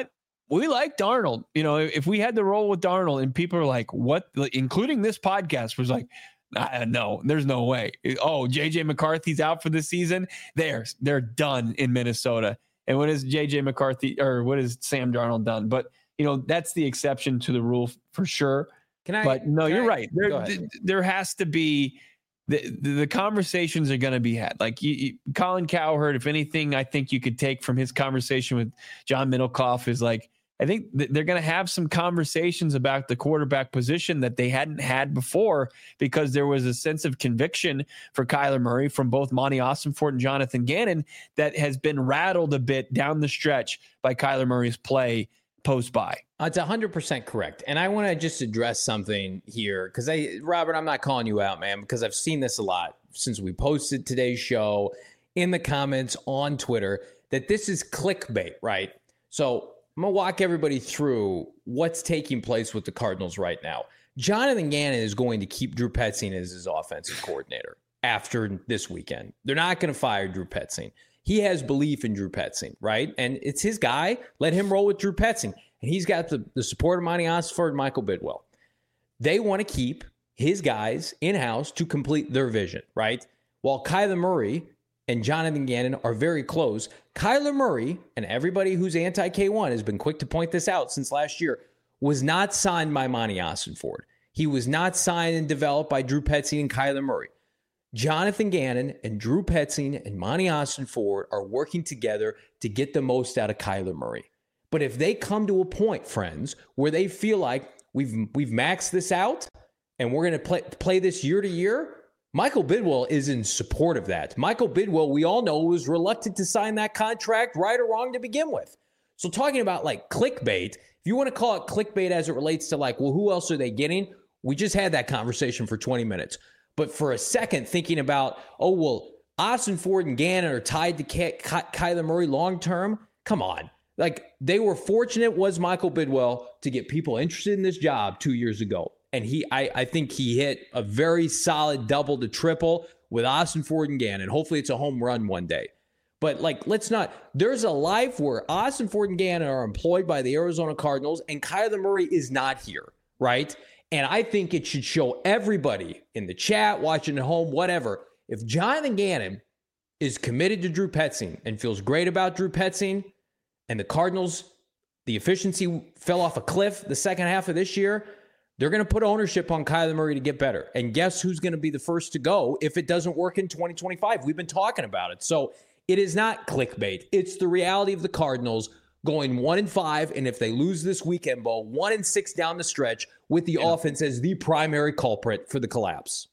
we like Darnold. You know, if we had to roll with Darnold and people are like, what, including this podcast was like, uh, no, there's no way. Oh, J J McCarthy's out for the season. They're, they're done in Minnesota. And what is J J McCarthy or what is Sam Darnold done? But, you know, that's the exception to the rule for sure. Can I, but no, you're I, right. There, th- there has to be, the, the, the conversations are going to be had. Like you, you, Colin Cowherd, if anything, I think you could take from his conversation with John Middlecoff is like, I think th- they're going to have some conversations about the quarterback position that they hadn't had before because there was a sense of conviction for Kyler Murray from both Monty Ossenfort and Jonathan Gannon that has been rattled a bit down the stretch by Kyler Murray's play post-bye. It's one hundred percent correct. And I want to just address something here because, I, Robert, I'm not calling you out, man, because I've seen this a lot since we posted today's show in the comments on Twitter that this is clickbait, right? So I'm going to walk everybody through what's taking place with the Cardinals right now. Jonathan Gannon is going to keep Drew Petzing as his offensive coordinator after this weekend. They're not going to fire Drew Petzing. He has belief in Drew Petzing, right? And it's his guy. Let him roll with Drew Petzing. And he's got the, the support of Monty Ossenfort and Michael Bidwell. They want to keep his guys in-house to complete their vision, right? While Kyler Murray and Jonathan Gannon are very close. Kyler Murray, and everybody who's anti-K one has been quick to point this out since last year, was not signed by Monty Ossenfort. He was not signed and developed by Drew Petzing and Kyler Murray. Jonathan Gannon and Drew Petzing and Monty Ossenfort are working together to get the most out of Kyler Murray. But if they come to a point, friends, where they feel like we've we've maxed this out and we're going to play play this year to year, Michael Bidwell is in support of that. Michael Bidwell, we all know, was reluctant to sign that contract, right or wrong, to begin with. So talking about like clickbait, if you want to call it clickbait as it relates to like, well, who else are they getting? We just had that conversation for twenty minutes. But for a second, thinking about, oh, well, Ossenfort and Gannon are tied to Ky- Ky- Kyler Murray long-term. Come on. Like, they were fortunate, was Michael Bidwell, to get people interested in this job two years ago. And he, I, I think he hit a very solid double to triple with Ossenfort and Gannon. Hopefully it's a home run one day. But, like, let's not. There's a life where Ossenfort and Gannon are employed by the Arizona Cardinals and Kyler Murray is not here, right? And I think it should show everybody in the chat, watching at home, whatever. If Jonathan Gannon is committed to Drew Petzing and feels great about Drew Petzing, and the Cardinals, the efficiency fell off a cliff the second half of this year, they're going to put ownership on Kyler Murray to get better. And guess who's going to be the first to go if it doesn't work in twenty twenty-five? We've been talking about it. So it is not clickbait. It's the reality of the Cardinals going one and five, and if they lose this weekend, Bo, one and six down the stretch with the yeah. offense as the primary culprit for the collapse.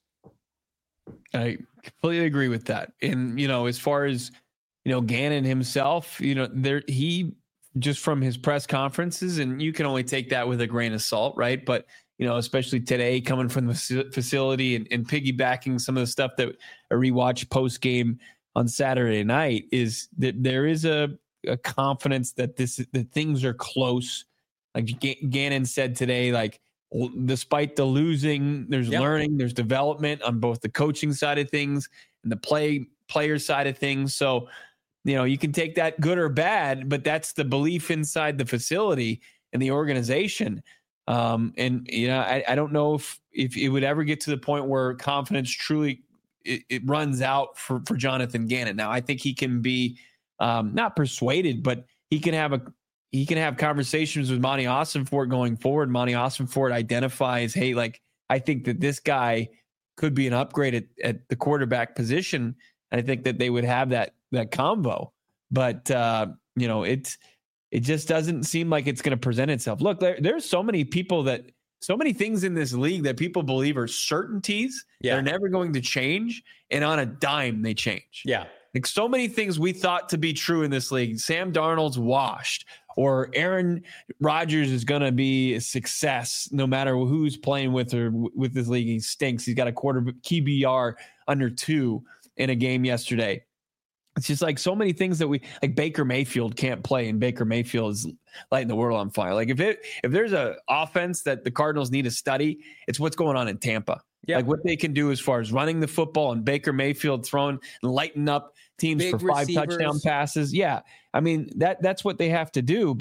I completely agree with that. And, you know, as far as, you know, Gannon himself, you know, there he just from his press conferences, and you can only take that with a grain of salt, right? But, you know, especially today coming from the facility and, and piggybacking some of the stuff that a rewatch post game on Saturday night is that there is a, a confidence that this that things are close. Like G- Gannon said today, like despite the losing, there's yep. learning, there's development on both the coaching side of things and the play player side of things. So, you know, you can take that good or bad, but that's the belief inside the facility and the organization. Um, and, you know, I, I don't know if, if it would ever get to the point where confidence truly it, it runs out for, for Jonathan Gannon. Now, I think he can be um, not persuaded, but he can have a, he can have conversations with Monty Ossenfort going forward. Monty Ossenfort identifies, hey, like, I think that this guy could be an upgrade at, at the quarterback position. And I think that they would have that, that combo, but uh, you know, it's, it just doesn't seem like it's going to present itself. Look, there, there's so many people that, so many things in this league that people believe are certainties. Yeah. They're never going to change. And on a dime, they change. Yeah. Like so many things we thought to be true in this league. Sam Darnold's washed, or Aaron Rodgers is going to be a success no matter who's playing with or with this league. He stinks. He's got a quarter Q B R under two in a game yesterday. It's just like so many things that we like. Baker Mayfield can't play, and Baker Mayfield is lighting the world on fire. Like if it if there's a offense that the Cardinals need to study, it's what's going on in Tampa. Yeah. Like what they can do as far as running the football and Baker Mayfield throwing and lighting up teams Big for five receivers. touchdown passes. Yeah, I mean that that's what they have to do. But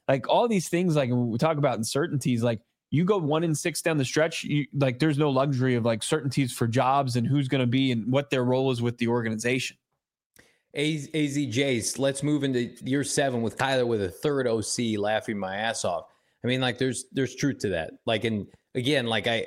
like all these things, like when we talk about uncertainties, like you go one in six down the stretch, you, like there's no luxury of like certainties for jobs and who's going to be and what their role is with the organization. A Z J's, let's move into year seven with Kyler with a third O C, laughing my ass off. I mean, like there's there's truth to that. Like, and again, like I,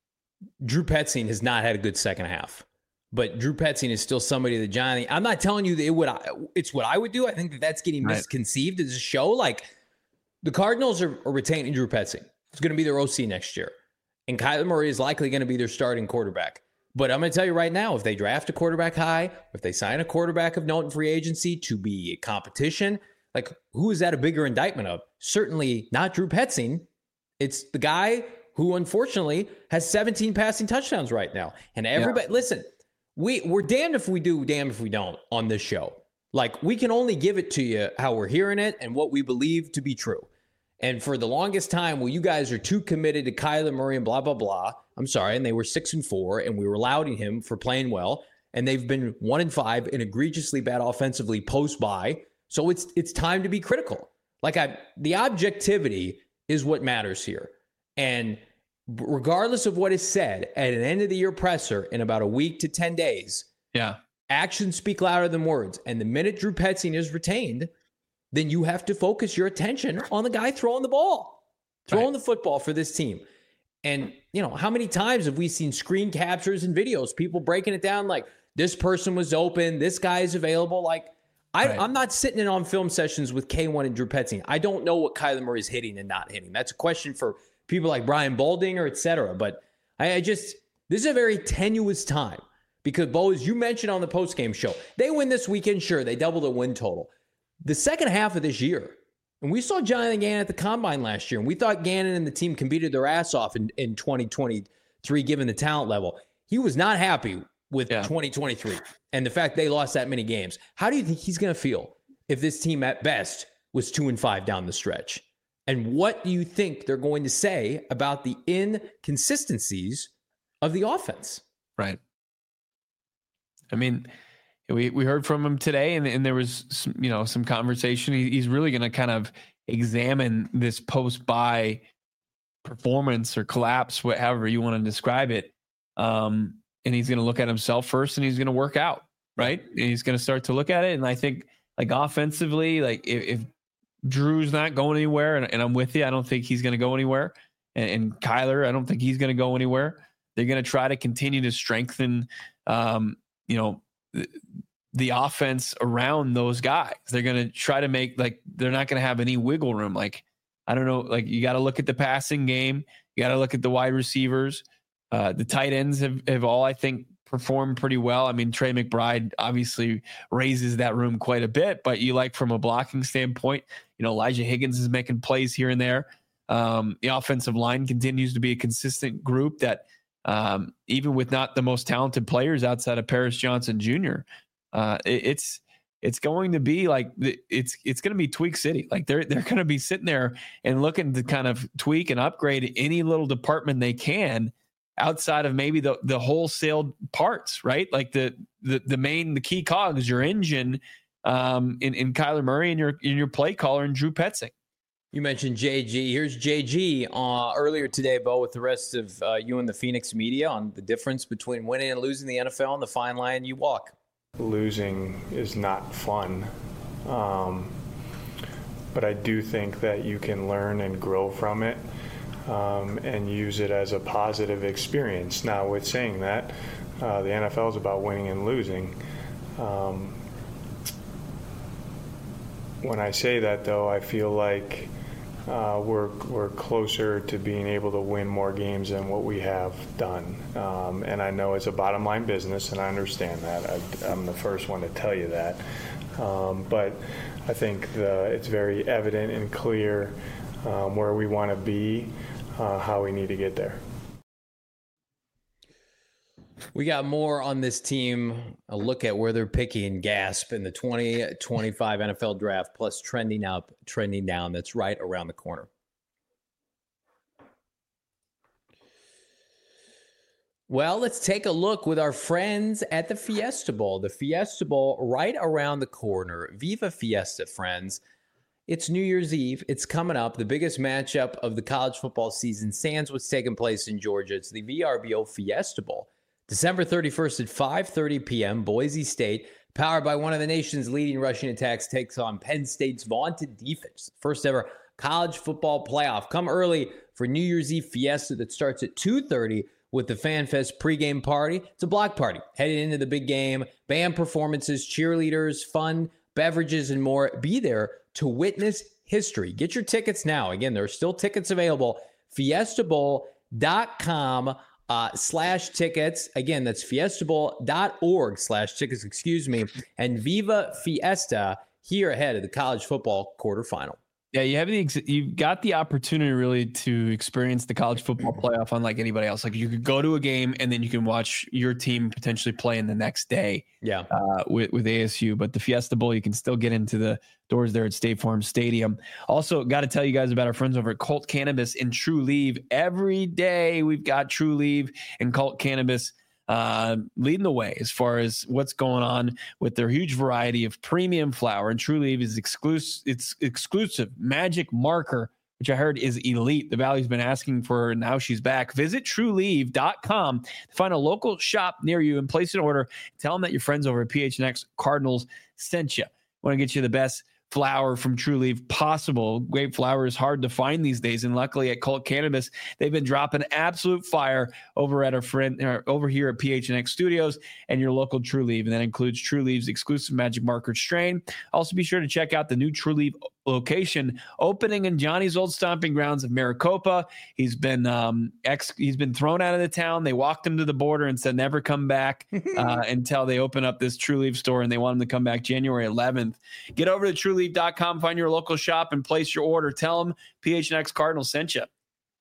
Drew Petzing has not had a good second half, but Drew Petzing is still somebody that Johnny. I'm not telling you that it would. It's what I would do. I think that that's getting right. misconceived as a show. Like the Cardinals are, are retaining Drew Petzing. It's going to be their O C next year, and Kyler Murray is likely going to be their starting quarterback. But I'm going to tell you right now, if they draft a quarterback high, if they sign a quarterback of note in free agency to be a competition, like who is that a bigger indictment of? Certainly not Drew Petzing. It's the guy who unfortunately has seventeen passing touchdowns right now. And everybody, yeah. listen, we, we're damned if we do, damned if we don't on this show. Like we can only give it to you how we're hearing it and what we believe to be true. And for the longest time, well, you guys are too committed to Kyler Murray and blah, blah, blah. I'm sorry. And they were six and four, and we were lauding him for playing well. And they've been one and five and egregiously bad offensively post-bye. So it's it's time to be critical. Like I, the objectivity is what matters here. And regardless of what is said at an end of the year presser in about a week to ten days, yeah, actions speak louder than words. And the minute Drew Petzing is retained, then you have to focus your attention on the guy throwing the ball, throwing right. the football for this team. And, you know, how many times have we seen screen captures and videos, people breaking it down like this person was open, this guy is available. Like, I, right. I'm not sitting in on film sessions with K one and Drew Petzing. I don't know what Kyler Murray is hitting and not hitting. That's a question for people like Brian Baldinger, et cetera. But I, I just, this is a very tenuous time because, Bo, as you mentioned on the postgame show, they win this weekend. Sure, they double the win total. The second half of this year, and we saw Jonathan Gannon at the Combine last year, and we thought Gannon and the team competed their ass off in, in twenty twenty-three, given the talent level. He was not happy with yeah. twenty twenty-three and the fact they lost that many games. How do you think he's going to feel if this team at best was two and five down the stretch? And what do you think they're going to say about the inconsistencies of the offense? Right. I mean, We we heard from him today, and, and there was some, you know, some conversation. He, he's really going to kind of examine this post-bye performance or collapse, whatever you want to describe it. Um, and he's going to look at himself first, and he's going to work out, right? And he's going to start to look at it. And I think, like offensively, like if, if Drew's not going anywhere, and, and I'm with you, I don't think he's going to go anywhere. And, and Kyler, I don't think he's going to go anywhere. They're going to try to continue to strengthen, um, you know. the offense around those guys. They're going to try to make, like, they're not going to have any wiggle room. Like, I don't know, like you got to look at the passing game. You got to look at the wide receivers. Uh, the tight ends have, have all, I think, performed pretty well. I mean, Trey McBride obviously raises that room quite a bit, but you like from a blocking standpoint, you know, Elijah Higgins is making plays here and there. Um, the offensive line continues to be a consistent group that, Um, even with not the most talented players outside of Paris Johnson Junior, uh, it, it's it's going to be like it's it's going to be tweak city. Like they're they're going to be sitting there and looking to kind of tweak and upgrade any little department they can outside of maybe the the wholesale parts, right? Like the the the main the key cogs, your engine, um, in in Kyler Murray and your in your play caller and Drew Petzing. You mentioned J G. Here's J G uh, earlier today, Bo, with the rest of uh, you and the Phoenix media on the difference between winning and losing the N F L and the fine line you walk. Losing is not fun, um, but I do think that you can learn and grow from it um, and use it as a positive experience. Now, with saying that, uh, the N F L is about winning and losing. Um, when I say that, though, I feel like Uh, we're we're closer to being able to win more games than what we have done, um, and I know it's a bottom line business, and I understand that. I, I'm the first one to tell you that, um, but I think the, it's very evident and clear um, where we want to be, uh, how we need to get there. We got more on this team, a look at where they're picking gasp in the twenty twenty-five N F L draft, plus trending up, trending down. That's right around the corner. Well, let's take a look with our friends at the Fiesta Bowl. The Fiesta Bowl right around the corner. Viva Fiesta, friends. It's New Year's Eve. It's coming up. The biggest matchup of the college football season, sans what's taking place in Georgia. It's the V R B O Fiesta Bowl. December thirty-first at five thirty p.m., Boise State, powered by one of the nation's leading rushing attacks, takes on Penn State's vaunted defense. First ever college football playoff. Come early for New Year's Eve Fiesta that starts at two thirty with the FanFest pregame party. It's a block party headed into the big game. Band performances, cheerleaders, fun, beverages, and more. Be there to witness history. Get your tickets now. Again, there are still tickets available. fiesta bowl dot com uh, slash tickets. Again, that's fiesta bowl dot org slash tickets, excuse me. And Viva Fiesta here ahead of the college football quarterfinal. Yeah, you have the you've got the opportunity really to experience the college football playoff unlike anybody else. Like you could go to a game and then you can watch your team potentially play in the next day. Yeah, uh, with with A S U, but the Fiesta Bowl you can still get into the doors there at State Farm Stadium. Also, got to tell you guys about our friends over at Colt Cannabis and True Leave. Every day we've got True Leave and Colt Cannabis Uh, leading the way as far as what's going on with their huge variety of premium flower. And True Leave is exclusive. It's exclusive magic marker, which I heard is elite. The Valley's been asking for her. Now she's back. Visit true leave dot com to find a local shop near you and place an order. Tell them that your friends over at P H N X Cardinals sent you. Want to get you the best flower from True Leaf possible. Great flower is hard to find these days, and luckily at Colt Cannabis, they've been dropping absolute fire over at our friend uh, over here at P H N X Studios and your local True Leaf, and that includes True Leaf's exclusive magic marker strain. Also, be sure to check out the new True Leaf location opening in Johnny's old stomping grounds of Maricopa. He's been um, ex he's been thrown out of the town. They walked him to the border and said never come back uh, until they open up this True Leaf store, and they want him to come back January eleventh. Get over to true leaf dot com, find your local shop, and place your order. Tell them P H N X Cardinals sent you.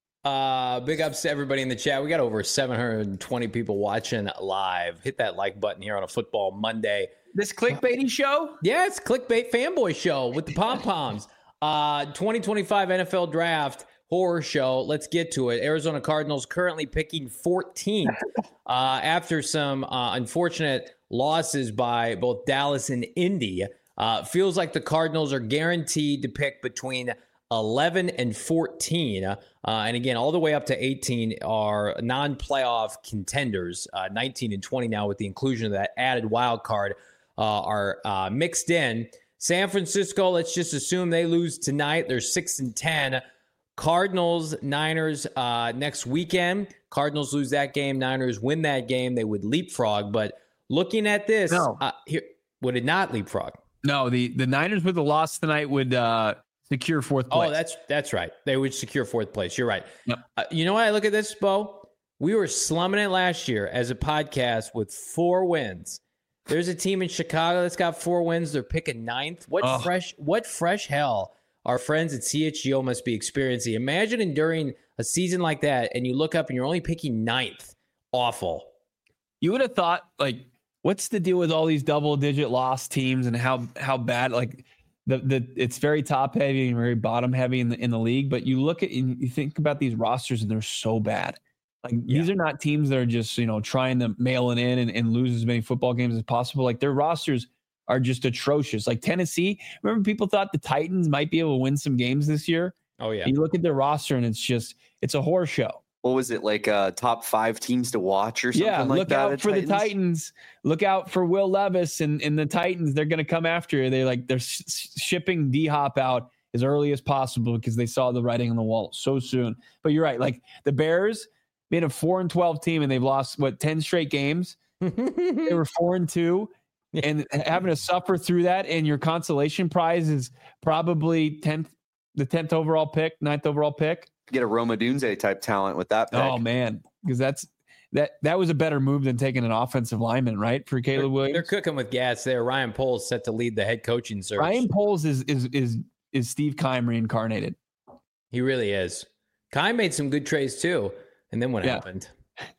Uh, big ups to everybody in the chat. We got over seven hundred twenty people watching live. Hit that like button here on a Football Monday. This clickbaity show? Yeah, it's clickbait fanboy show with the pom-poms. Uh, twenty twenty-five N F L Draft horror show. Let's get to it. Arizona Cardinals currently picking fourteenth uh, after some uh, unfortunate losses by both Dallas and Indy. Uh, feels like the Cardinals are guaranteed to pick between eleven and fourteen. Uh, and again, all the way up to eighteen are non-playoff contenders. Uh, nineteen and twenty now with the inclusion of that added wild card uh, are uh, mixed in. San Francisco, let's just assume they lose tonight. They're six and ten. Cardinals, Niners uh, next weekend. Cardinals lose that game. Niners win that game. They would leapfrog. But looking at this, no. uh, here would it not leapfrog? No, the, the Niners with the loss tonight would uh, secure fourth place. Oh, that's that's right. They would secure fourth place. You're right. Yep. Uh, you know what I look at this, Bo? We were slumming it last year as a podcast with four wins. There's a team in Chicago that's got four wins. They're picking ninth. What oh. fresh what fresh hell our friends at C H G O must be experiencing. Imagine enduring a season like that and you look up and you're only picking ninth. Awful. You would have thought, like, what's the deal with all these double-digit loss teams and how how bad, like, the the it's very top-heavy and very bottom-heavy in the in the league. But you look at and you think about these rosters and they're so bad. Like yeah. These are not teams that are just, you know, trying to mail it in and, and lose as many football games as possible. Like their rosters are just atrocious. Like Tennessee, remember people thought the Titans might be able to win some games this year? Oh, yeah. And you look at their roster and it's just, it's a horror show. What was it, like uh, top five teams to watch or something yeah, like look that? Look out for Titans? the Titans. Look out for Will Levis and, and the Titans. They're going to come after you. They're like, they're sh- shipping D-Hop out as early as possible because they saw the writing on the wall so soon. But you're right. Like the Bears being a four and twelve team and they've lost, what, ten straight games? They were four and two. And having to suffer through that, and your consolation prize is probably tenth, the tenth overall pick, ninth overall pick. Get a Roma Dunze type talent with that pick. Oh man, because that's that that was a better move than taking an offensive lineman, right? For Caleb they're, Williams, they're cooking with gas there. Ryan Poles set to lead the head coaching search. Ryan Poles is is is is Steve Keim reincarnated. He really is. Keim made some good trades too, and then what yeah. happened?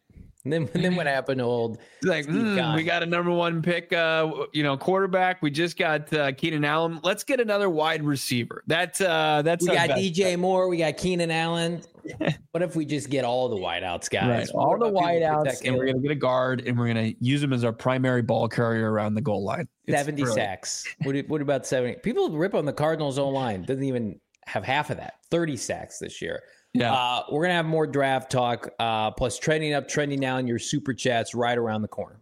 And then, and then what happened to old It's like, mm, we got a number one pick, uh, you know, quarterback. We just got uh, Keenan Allen. Let's get another wide receiver. That's uh, that's we got D J bet. Moore. We got Keenan Allen. What if we just get all the wideouts, guys? Right. All the wideouts, and we're gonna get a guard, and we're gonna use him as our primary ball carrier around the goal line. It's seventy brilliant. Sacks. What, what about seventy? People rip on the Cardinals' O line. Doesn't even have half of that. thirty sacks this year. Yeah, uh, we're gonna have more draft talk, uh, plus trending up, trending down. Your super chats right around the corner.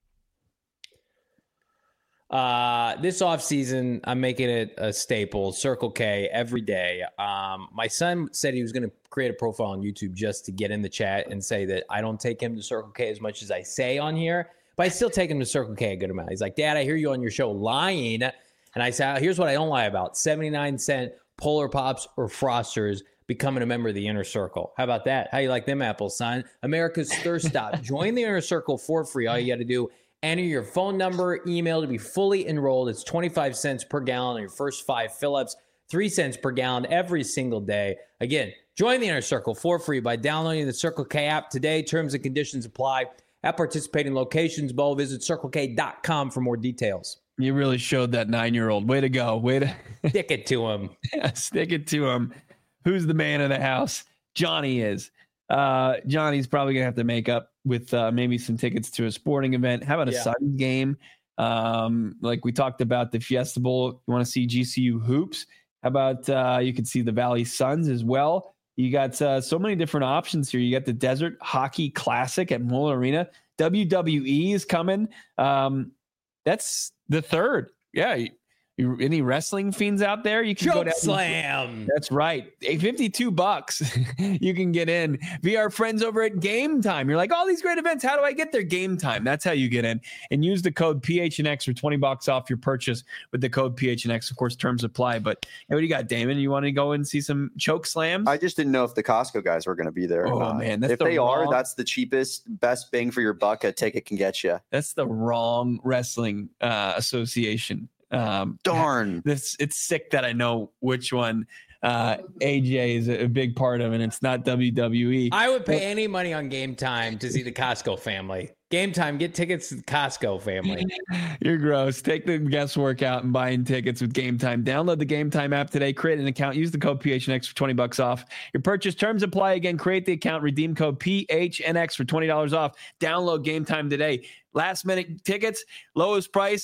Uh, this offseason, I'm making it a staple. Circle K every day. Um, my son said he was going to create a profile on YouTube just to get in the chat and say that I don't take him to Circle K as much as I say on here, but I still take him to Circle K a good amount. He's like, Dad, I hear you on your show lying. And I said, here's what I don't lie about: seventy-nine cent Polar Pops or Frosters. Becoming a member of the Inner Circle. How about that? How you like them apples, son? America's Thirst Stop. Join the Inner Circle for free. All you got to do, enter your phone number, email to be fully enrolled. It's twenty-five cents per gallon on your first five fill-ups, three cents per gallon every single day. Again, join the Inner Circle for free by downloading the Circle K app today. Terms and conditions apply at participating locations. Bo, visit circle k dot com for more details. You really showed that nine-year-old. Way to go. Way to stick it to him. Yeah, stick it to him. Who's the man of the house? Johnny is. Uh, Johnny's probably going to have to make up with uh, maybe some tickets to a sporting event. How about a yeah. Suns game? Um, like we talked about the Fiesta Bowl. You want to see G C U hoops? How about uh, you can see the Valley Suns as well? You got uh, so many different options here. You got the Desert Hockey Classic at Moeller Arena. W W E is coming. Um, that's the third. Yeah. You, you, any wrestling fiends out there? You can Choke go down. Slam. That's right. fifty-two bucks. You can get in via our friends over at Game Time. You're like, all these great events. How do I get there? Game Time. That's how you get in. And use the code P H N X for twenty bucks off your purchase with the code P H N X. Of course, terms apply. But hey, what do you got, Damon? You want to go and see some choke slams? I just didn't know if the Costco guys were going to be there. Oh, or man. That's if the they wrong... are, that's the cheapest, best bang for your buck a ticket can get you. That's the wrong wrestling uh, association. Um, Darn. This it's sick that I know which one uh, A J is a, a big part of, and it's not W W E. I would pay any money on Game Time to see the Costco family. Game Time, get tickets to the Costco family. You're gross. Take the guesswork out and buying tickets with Game Time. Download the Game Time app today. Create an account. Use the code P H N X for twenty bucks off. Your purchase terms apply. Again, create the account. Redeem code P H N X for twenty dollars off. Download Game Time today. Last minute tickets, lowest price.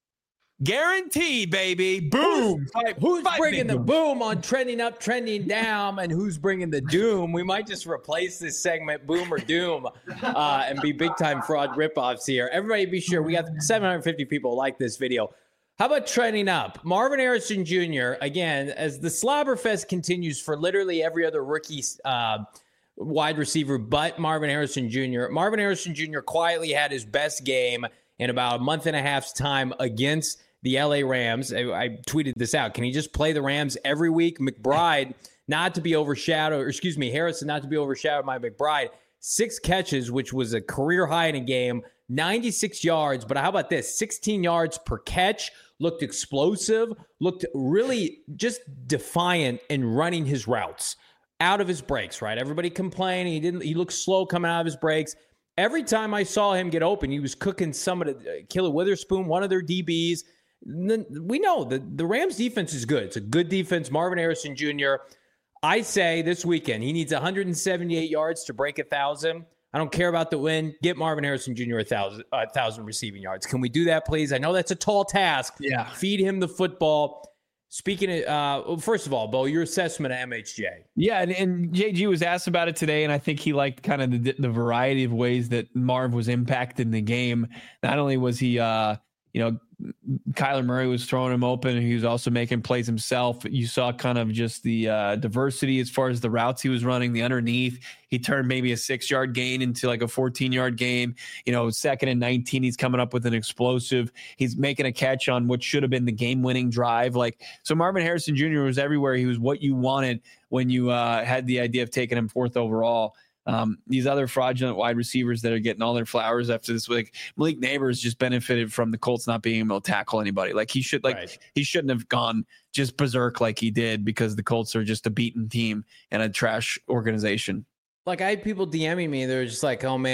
Guaranteed, baby. Boom. Five, who's five bringing the boom on trending up, trending down, and who's bringing the doom? We might just replace this segment, boom or doom, uh, and be big time fraud ripoffs here. Everybody be sure we got seven hundred fifty people like this video. How about trending up? Marvin Harrison Junior, again, as the Slobberfest continues for literally every other rookie uh, wide receiver but Marvin Harrison Junior Marvin Harrison Junior quietly had his best game in about a month and a half's time against the L A Rams. I, I tweeted this out. Can he just play the Rams every week? McBride, not to be overshadowed, or excuse me, Harrison, not to be overshadowed by McBride. Six catches, which was a career high in a game, ninety-six yards. But how about this? sixteen yards per catch, looked explosive, looked really just defiant in running his routes out of his breaks, right? Everybody complaining. He didn't, he looked slow coming out of his breaks. Every time I saw him get open, he was cooking somebody, uh, Killer Witherspoon, one of their D Bs. We know the, the Rams defense is good. It's a good defense. Marvin Harrison Junior I say this weekend, he needs one hundred seventy-eight yards to break a thousand. I don't care about the win. Get Marvin Harrison Junior a thousand, a thousand receiving yards. Can we do that, please? I know that's a tall task. Yeah. Feed him the football. Speaking of, uh, well, first of all, Bo, your assessment of M H J. Yeah, and, and J G was asked about it today, and I think he liked kind of the, the variety of ways that Marv was impacted in the game. Not only was he, uh, you know, Kyler Murray was throwing him open, and he was also making plays himself. You saw kind of just the uh, diversity as far as the routes he was running, the underneath. He turned maybe a six-yard gain into like a fourteen-yard gain. You know, second and nineteen, he's coming up with an explosive. He's making a catch on what should have been the game-winning drive. Like, so Marvin Harrison Junior was everywhere. He was what you wanted when you uh, had the idea of taking him fourth overall. Um, these other fraudulent wide receivers that are getting all their flowers after this week, Malik Neighbors just benefited from the Colts not being able to tackle anybody. Like he should, like right. he shouldn't have gone just berserk like he did, because the Colts are just a beaten team and a trash organization. Like I had people DMing me, they're just like, "Oh man,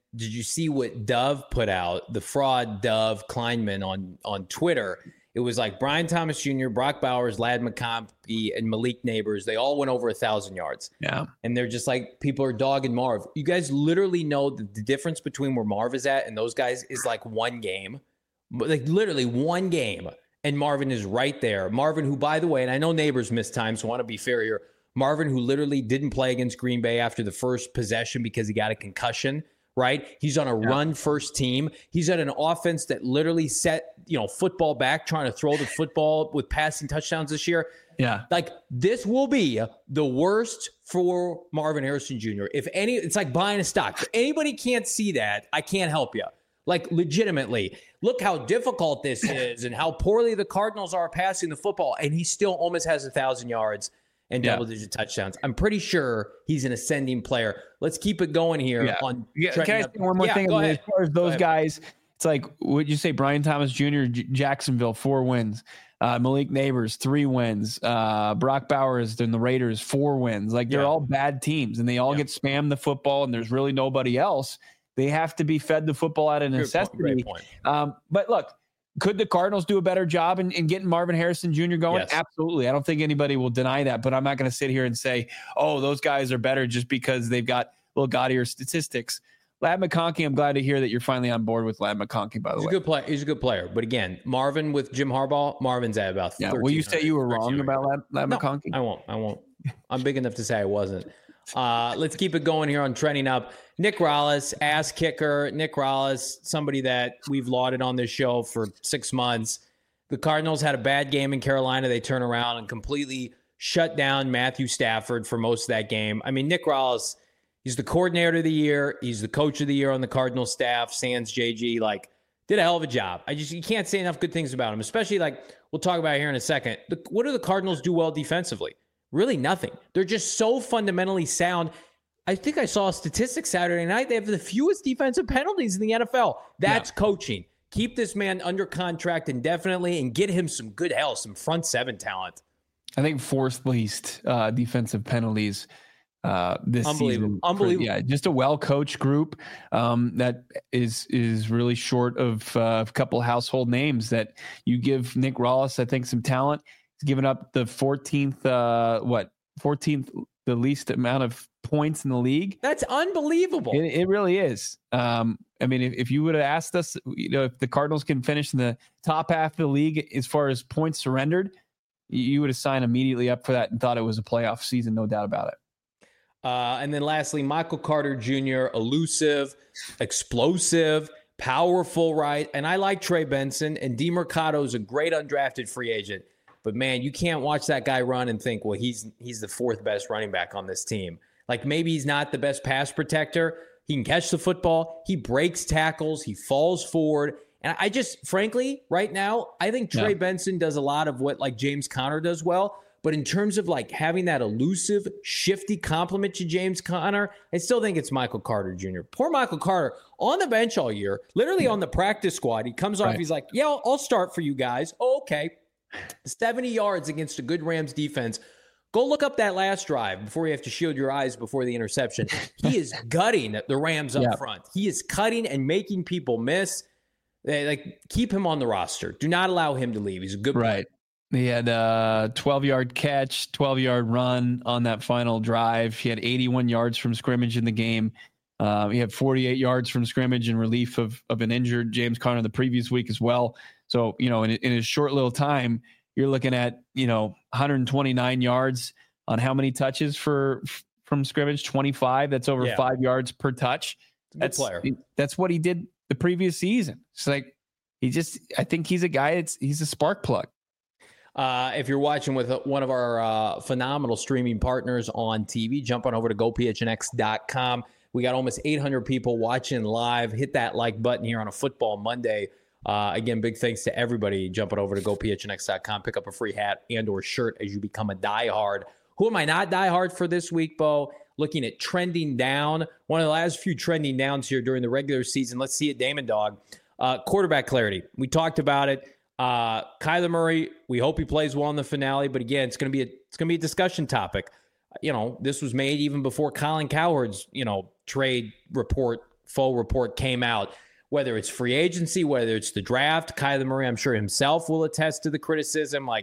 did you see what Dove put out? The fraud Dove Kleinman on, on Twitter. It was like Brian Thomas Junior, Brock Bowers, Ladd McConkey, and Malik Neighbors. They all went over a thousand yards. Yeah. And they're just like, people are dogging Marv. You guys literally know that the difference between where Marv is at and those guys is like one game. Like literally one game. And Marvin is right there. Marvin, who, by the way, and I know Neighbors missed time, so I want to be fair here. Marvin, who literally didn't play against Green Bay after the first possession because he got a concussion. Right? He's on a yeah. run first team. He's at an offense that literally set, you know, football back, trying to throw the football with passing touchdowns this year. Yeah. Like this will be the worst for Marvin Harrison Junior If any, it's like buying a stock. If anybody can't see that, I can't help you. Like legitimately, look how difficult this is and how poorly the Cardinals are passing the football. And he still almost has a thousand yards and yeah. double-digit touchdowns. I'm pretty sure he's an ascending player. Let's keep it going here. Yeah. On yeah. Can I say one more yeah, thing? Go As ahead. far as those guys, it's like, would you say Brian Thomas Junior, J- Jacksonville, four wins. Uh, Malik Neighbors, three wins. Uh, Brock Bowers and the Raiders, four wins. Like they're yeah. all bad teams, and they all yeah. get spammed the football, and there's really nobody else. They have to be fed the football out of necessity. Great point. Um, but look, could the Cardinals do a better job in, in getting Marvin Harrison Junior going? Yes. Absolutely. I don't think anybody will deny that, but I'm not going to sit here and say, oh, those guys are better just because they've got a little gaudier statistics. Ladd McConkey, I'm glad to hear that you're finally on board with Ladd McConkey, by the He's way. A good play. He's a good player. But again, Marvin with Jim Harbaugh, Marvin's at about yeah. Will you say you were wrong about Ladd, Ladd no, McConkey? I won't. I won't. I'm big enough to say I wasn't. Uh, let's keep it going here on Trending Up. Nick Rallis, ass kicker. Nick Rallis, somebody that we've lauded on this show for six months. The Cardinals had a bad game in Carolina. They turn around and completely shut down Matthew Stafford for most of that game. I mean, Nick Rallis, he's the coordinator of the year. He's the coach of the year on the Cardinals staff. Sans J G, like, did a hell of a job. I just, you can't say enough good things about him, especially like we'll talk about it here in a second. The, what do the Cardinals do well defensively? Really nothing. They're just so fundamentally sound. I think I saw a statistic Saturday night. They have the fewest defensive penalties in the N F L. That's yeah. coaching. Keep this man under contract indefinitely and get him some good health, some front seven talent. I think fourth least uh, defensive penalties uh, this Unbelievable. season. Unbelievable. For, yeah, just a well-coached group um, that is is really short of uh, a couple household names. That you give Nick Rallis, I think, some talent. He's given up the fourteenth, uh, what fourteenth, the least amount of points in the league. That's unbelievable. It, it really is. Um, I mean, if, if you would have asked us, you know, if the Cardinals can finish in the top half of the league as far as points surrendered, you would have signed immediately up for that and thought it was a playoff season, no doubt about it. Uh, and then lastly, Michael Carter Junior, elusive, explosive, powerful, right? And I like Trey Benson, and DeMercado is a great undrafted free agent. But, man, you can't watch that guy run and think, well, he's he's the fourth best running back on this team. Like, maybe he's not the best pass protector. He can catch the football. He breaks tackles. He falls forward. And I just, frankly, right now, I think Trey yeah. Benson does a lot of what, like, James Conner does well. But in terms of, like, having that elusive, shifty compliment to James Conner, I still think it's Michael Carter Junior Poor Michael Carter on the bench all year, literally yeah. on the practice squad. He comes off, right. he's like, yeah, I'll, I'll start for you guys. Oh, okay. seventy yards against a good Rams defense. Go look up that last drive before you have to shield your eyes before the interception. He is gutting the Rams up yeah. front. He is cutting and making people miss. They, like, keep him on the roster. Do not allow him to leave. He's a good player. Right. He had a twelve-yard catch, twelve-yard run on that final drive. He had eighty-one yards from scrimmage in the game. Uh, he had forty-eight yards from scrimmage in relief of, of an injured James Conner the previous week as well. So, you know, in, in his short little time, you're looking at, you know, one hundred twenty-nine yards on how many touches for from scrimmage? twenty-five. That's over yeah. five yards per touch. That's good player. That's what he did the previous season. It's like he just, I think he's a guy. It's he's a spark plug. Uh, if you're watching with one of our uh, phenomenal streaming partners on T V, jump on over to go p h n x dot com. We got almost eight hundred people watching live. Hit that like button here on a Football Monday. Uh, again, big thanks to everybody jumping over to go p h n x dot com. Pick up a free hat and or shirt as you become a diehard. Who am I not diehard for this week, Bo? Looking at trending down. One of the last few trending downs here during the regular season. Let's see it, Damon Dog. Uh, quarterback clarity. We talked about it. Uh, Kyler Murray, we hope he plays well in the finale. But again, it's going to be a, it's going to be a discussion topic. You know, this was made even before Colin Cowherd's, you know, trade report info report came out, whether it's free agency, whether it's the draft. Kyler Murray, I'm sure himself will attest to the criticism. Like,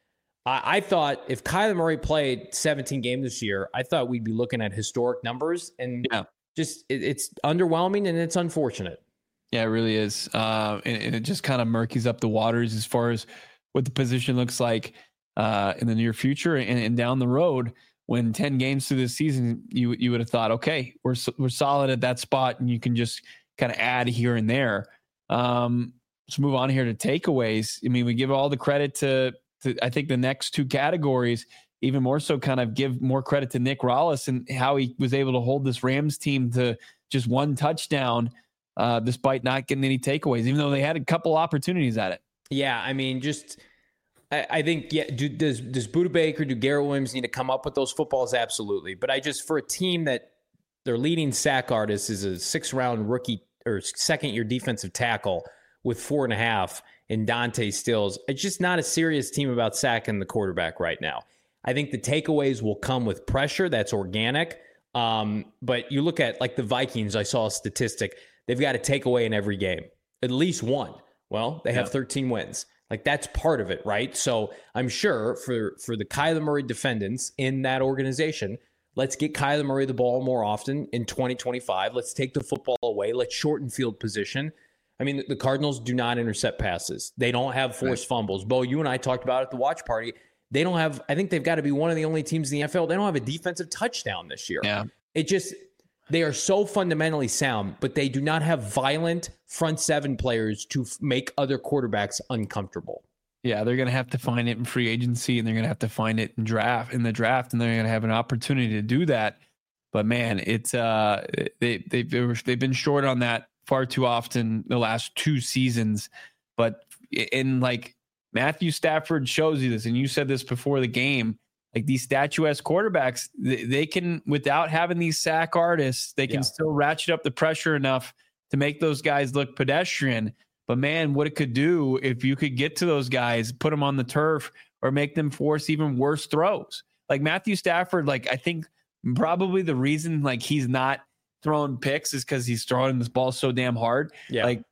I, I thought if Kyler Murray played seventeen games this year, I thought we'd be looking at historic numbers, and yeah. just it, it's underwhelming and it's unfortunate. Yeah, it really is. Uh, and, and it just kind of murkies up the waters as far as what the position looks like uh, in the near future and, and down the road. When ten games through this season, you you would have thought, okay, we're we're solid at that spot, and you can just kind of add here and there. Um, let's move on here to takeaways. I mean, we give all the credit to, to I think the next two categories, even more so kind of give more credit to Nick Rallis and how he was able to hold this Rams team to just one touchdown uh, despite not getting any takeaways, even though they had a couple opportunities at it. Yeah, I mean, just I, I think, yeah, do, does, does Budda Baker, do Garrett Williams need to come up with those footballs? Absolutely. But I just, for a team that their leading sack artist is a six-round rookie or second-year defensive tackle with four and a half in Dante Stills, it's just not a serious team about sacking the quarterback right now. I think the takeaways will come with pressure. That's organic. Um, but you look at, like, the Vikings, I saw a statistic. They've got a takeaway in every game, at least one. Well, they have yeah. thirteen wins. Like, that's part of it, right? So I'm sure for, for the Kyler Murray defendants in that organization, let's get Kyler Murray the ball more often in twenty twenty-five. Let's take the football away. Let's shorten field position. I mean, the Cardinals do not intercept passes. They don't have forced right. fumbles. Bo, you and I talked about it at the watch party. They don't have, I think they've got to be one of the only teams in the N F L. They don't have a defensive touchdown this year. Yeah. It just, they are so fundamentally sound, but they do not have violent front seven players to f- make other quarterbacks uncomfortable. Yeah, they're going to have to find it in free agency, and they're going to have to find it in draft in the draft, and they're going to have an opportunity to do that. But man, it's uh, they they they've been short on that far too often the last two seasons. But in like Matthew Stafford shows you this, and you said this before the game. Like these statuesque quarterbacks, they, they can, without having these sack artists, they can yeah. still ratchet up the pressure enough to make those guys look pedestrian. But man, what it could do if you could get to those guys, put them on the turf, or make them force even worse throws. Like Matthew Stafford, like I think probably the reason like he's not throwing picks is because he's throwing this ball so damn hard. Yeah. Like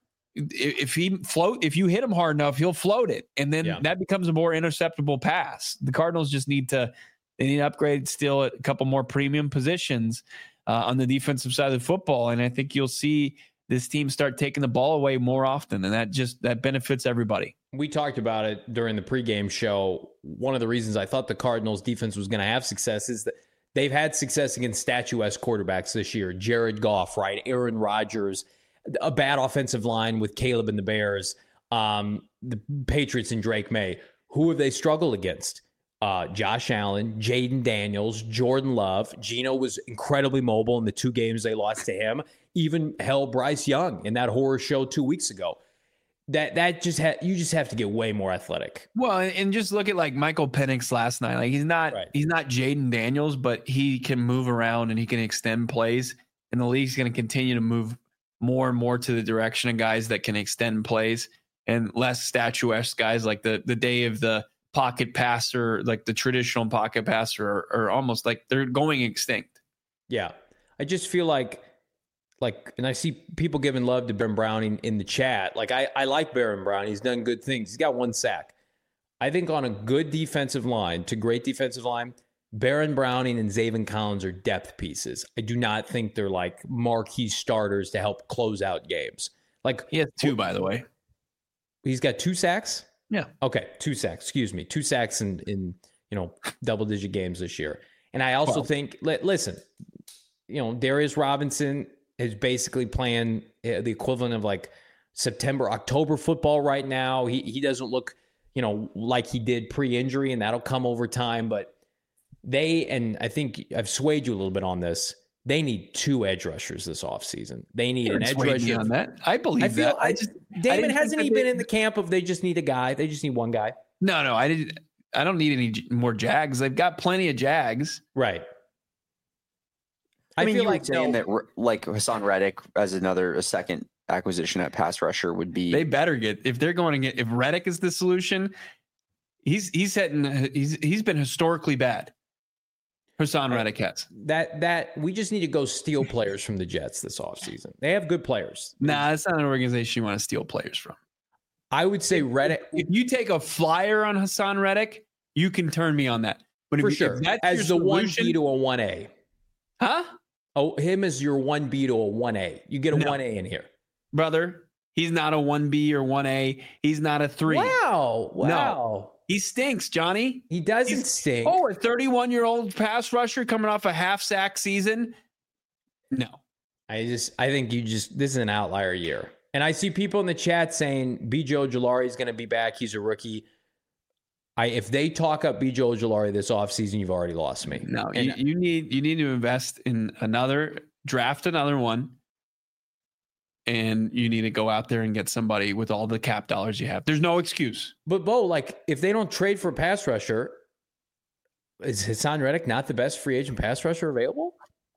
if he float, if you hit him hard enough, he'll float it, and then yeah. that becomes a more interceptable pass. The Cardinals just need to they need to upgrade still at a couple more premium positions uh, on the defensive side of the football, and I think you'll see this team start taking the ball away more often, and that just that benefits everybody. We talked about it during the pregame show. One of the reasons I thought the Cardinals defense was going to have success is that they've had success against statuesque quarterbacks this year. Jared Goff, right? Aaron Rodgers. A bad offensive line with Caleb and the Bears, um, the Patriots and Drake May. Who have they struggled against? Uh, Josh Allen, Jaden Daniels, Jordan Love. Geno was incredibly mobile in the two games they lost to him. Even hell, Bryce Young in that horror show two weeks ago. That that just ha- you just have to get way more athletic. Well, and just look at like Michael Penix last night. Like he's not right. he's not Jaden Daniels, but he can move around and he can extend plays. And the league's going to continue to move more and more to the direction of guys that can extend plays and less statuesque guys like the the day of the pocket passer, like the traditional pocket passer, are, are almost like they're going extinct. Yeah. I just feel like, like, and I see people giving love to Baron Browning in the chat. Like, I, I like Baron Browning. He's done good things. He's got one sack. I think on a good defensive line to great defensive line, Baron Browning and Zaven Collins are depth pieces. I do not think they're like marquee starters to help close out games. Like he has two, by the way. He's got two sacks? Yeah. Okay, two sacks. Excuse me. Two sacks in, in you know, double-digit games this year. And I also well, think, listen, you know, Darius Robinson is basically playing the equivalent of like September, October football right now. He he doesn't look, you know, like he did pre-injury, and that'll come over time, but they, and I think I've swayed you a little bit on this, they need two edge rushers this offseason. They need You're an edge rusher. On that. I believe I feel, that. I just, Damon, I hasn't he been in the camp of they just need a guy? They just need one guy? No, no, I didn't. I don't need any more Jags. They've got plenty of Jags. Right. I, I mean, feel you like were saying no, that like Hassan Reddick as another a second acquisition at pass rusher would be. They better get, if they're going to get, if Reddick is the solution, he's he's hitting, he's he's been historically bad. Hassan Reddick has. That that we just need to go steal players from the Jets this offseason. They have good players. Nah, that's not an organization you want to steal players from. I would say Reddick. If you take a flyer on Hassan Reddick, you can turn me on that. But For if, sure. if that's as your the one solution- B to a one A. Huh? Oh, him as your one B to a one A. You get a No. one A in here. Brother, he's not a one B or one A. He's not a three. Wow. Wow. No. He stinks, Johnny. He doesn't He's- stink. Oh, a thirty-one-year-old pass rusher coming off a half-sack season? No. I just, I think you just, this is an outlier year. And I see people in the chat saying B J Ojulari is going to be back. He's a rookie. I, if they talk up B J Ojulari this offseason, you've already lost me. No, And you, you need you need to invest in another, draft another one, and you need to go out there and get somebody with all the cap dollars you have. There's no excuse. But Bo, like, if they don't trade for a pass rusher, is Hassan Reddick not the best free agent pass rusher available?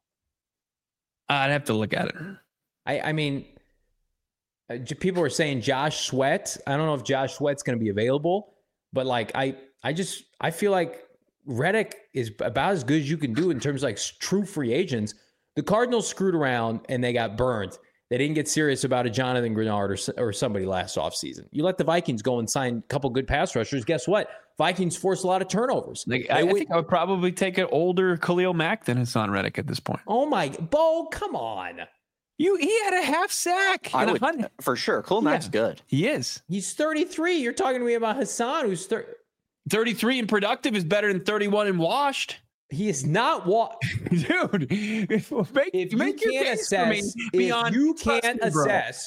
I'd have to look at it. I, I mean, uh, j- people are saying Josh Sweat. I don't know if Josh Sweat's going to be available, but like, I, I just, I feel like Reddick is about as good as you can do in terms of like s- true free agents. The Cardinals screwed around and they got burned. They didn't get serious about a Jonathan Grenard or, s- or somebody last offseason. You let the Vikings go and sign a couple good pass rushers. Guess what? Vikings force a lot of turnovers. Like, They I, I would- think I would probably take an older Khalil Mack than Hassan Reddick at this point. oh my, Bo, come on. You, he had a half sack. I and a would, hundred. for sure. Khalil Mack's Yeah. good. He is. He's thirty-three. You're talking to me about Hassan, who's thirty. thirty-three and productive is better than thirty-one and washed. He is not what. Dude, make, If you make your can't case for me assess, if beyond you trust can't me, bro. assess,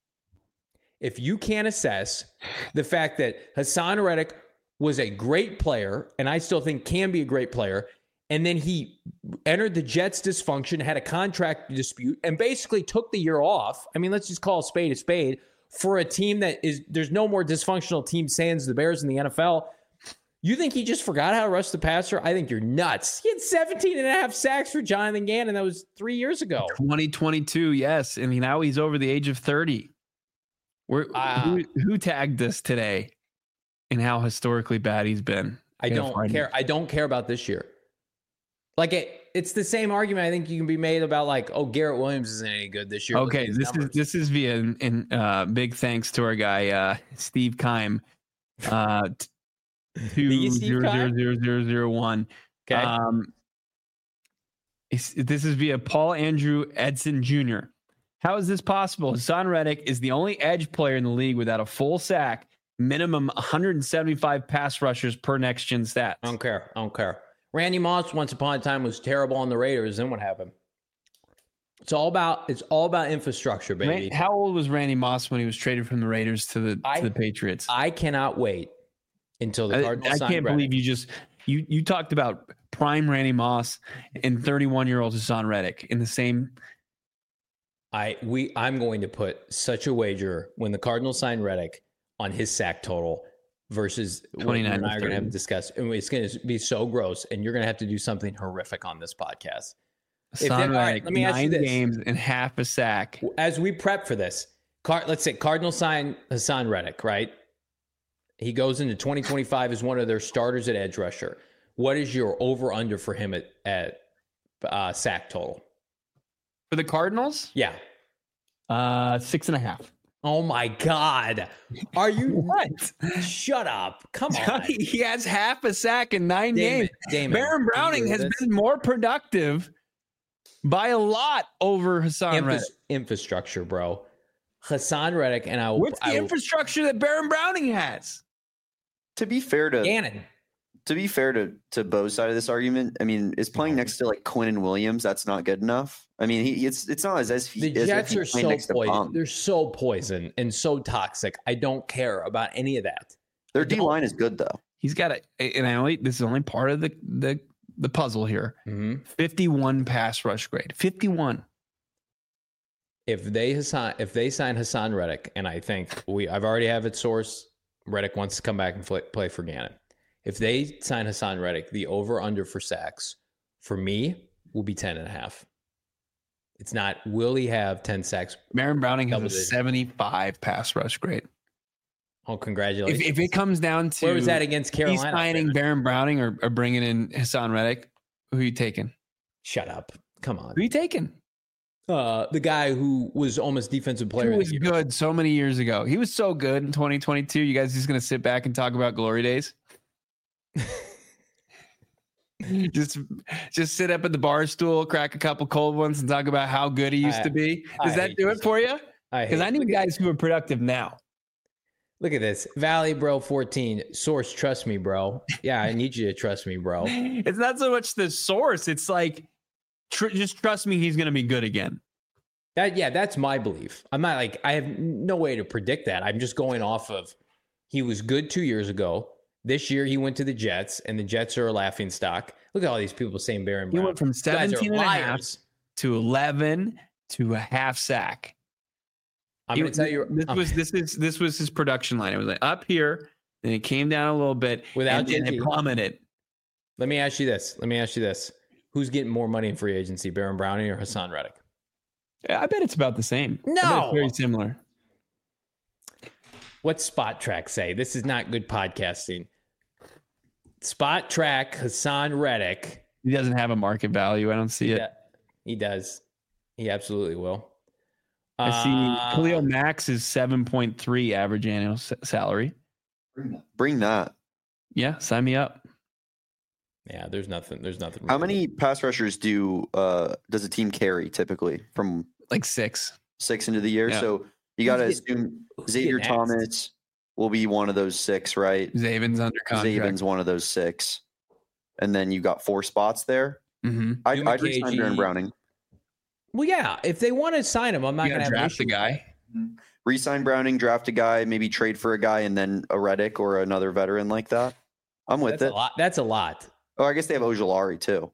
if you can't assess the fact that Hassan Reddick was a great player, and I still think can be a great player, and then he entered the Jets' dysfunction, had a contract dispute, and basically took the year off. I mean, let's just call a spade a spade for a team that is, there's no more dysfunctional team sans the Bears in the N F L. You think he just forgot how to rush the passer? I think you're nuts. He had seventeen and a half sacks for Jonathan Gannon. That was three years ago. twenty twenty-two, yes. And now he's over the age of thirty. We're, Ah. who, who tagged this today and how historically bad he's been? I Gotta don't find care. it. I don't care about this year. Like it, it's the same argument I think you can be made about like, oh, Garrett Williams isn't any good this year. Look Okay, at his this is numbers. this is via and uh, big thanks to our guy uh, Steve Keim. Uh, t- The two Steve zero zero Keim? zero zero zero one. Okay. Um, it's, this is via Paul Andrew Edson Junior How is this possible? Hassan Reddick is the only edge player in the league without a full sack, minimum one hundred seventy-five pass rushers per next gen stats. I don't care. I don't care. Randy Moss once upon a time was terrible on the Raiders. Then what happened? It's all about it's all about infrastructure, baby. Ran- How old was Randy Moss when he was traded from the Raiders to the I- to the Patriots? I cannot wait until the I, Cardinals I sign can't Reddick. believe you just you you talked about prime Randy Moss and thirty-one year old Hassan Reddick in the same. I we I'm going to put such a wager when the Cardinals sign Reddick on his sack total versus what you twenty-nine and I to are going to have to thirty. discuss. And it's going to be so gross, and you're going to have to do something horrific on this podcast. If Hassan they- all right, Reddick, let me ask you nine this. games and half a sack. As we prep for this, Car- let's say Cardinals sign Hassan Reddick, right? He goes into twenty twenty-five as one of their starters at edge rusher. What is your over under for him at at uh, sack total? For the Cardinals, Yeah. uh, six and a half. Oh my God. Are you What? Shut up. Come on. he has half a sack in nine Damon, games. Damon, Baron Browning can you has do this? been more productive by a lot over Hassan Infra- Reddick. infrastructure, bro. Hassan Reddick and I will. What's the I will infrastructure that Baron Browning has? To be fair to Gannon. to be fair to to Bo's side of this argument, I mean, is playing next to like Quinnen Williams, that's not good enough. I mean, he it's it's not as as, he, The as Jets if are he's playing so next to poison. Pong. They're so poison and so toxic. I don't care about any of that. Their I don't- D line is good though. He's got a, and I only this is only part of the the the puzzle here. Mhm. fifty-one pass rush grade. fifty-one. If they Hassan, if they sign Hassan Reddick, and I think we, I've already have it sourced. Reddick wants to come back and play, play for Gannon. If they sign Hassan Reddick, the over under for sacks for me will be ten and a half. It's not will he have ten sacks? Baron Browning has Double a digit. seventy-five pass rush grade. Oh, If, congratulations! if it comes down to Where was that against he's Carolina? signing Baron Browning or, or bringing in Hassan Reddick, who are you taking? Shut up. Come on. Who are you taking? Uh, the guy who was almost defensive player. He of was the year. good so many years ago. He was so good in twenty twenty-two. You guys just going to sit back and talk about glory days? just just sit up at the bar stool, crack a couple cold ones, and talk about how good he used I, to be. Does I that do it this. for you? Because I, I need guys who are productive now. Look at this. Valley Bro fourteen. Source, trust me, bro. Yeah, I need you to trust me, bro. It's not so much the source. It's like, tr- just trust me, he's going to be good again. That yeah, that's my belief. I'm not like I have no way to predict that. I'm just going off of he was good two years ago. This year he went to the Jets, and the Jets are a laughing stock. Look at all these people saying Baron He Brown. went from seventeen and a half to eleven to a half sack. I'm He- going to tell you this um, was this is this was his production line. It was like up here, then it came down a little bit, Without and then G T. it plummeted. Let me ask you this. Let me ask you this. Who's getting more money in free agency, Baron Browning or Hassan Reddick? I bet it's about the same. I bet No. it's very similar. What's Spot Track say? This is not good podcasting. Spot Track, Hassan Reddick. He doesn't have a market value. I don't see it. Yeah, he does. He absolutely will. I see Uh, Khalil Max is seven point three average annual s- salary. Bring that. Yeah, sign me up. Yeah, there's nothing. There's nothing. How many pass rushers do uh, does a team carry typically from Like six. six into the year? Yeah. So you got to Who's getting- assume who's Xavier getting axed? Thomas will be one of those six, right? Zaven's under contract. Zaven's one of those six, and then you got four spots there. Mm-hmm. I'd, Hugh I'd resign McKay, Baron Browning. Well, yeah. If they want to sign him, I'm not You going gotta to have an draft the issue. guy. Resign Browning, draft a guy, maybe trade for a guy, and then a Reddick or another veteran like that. I'm with That's it. a lot. That's a lot. Oh, I guess they have Ojulari too.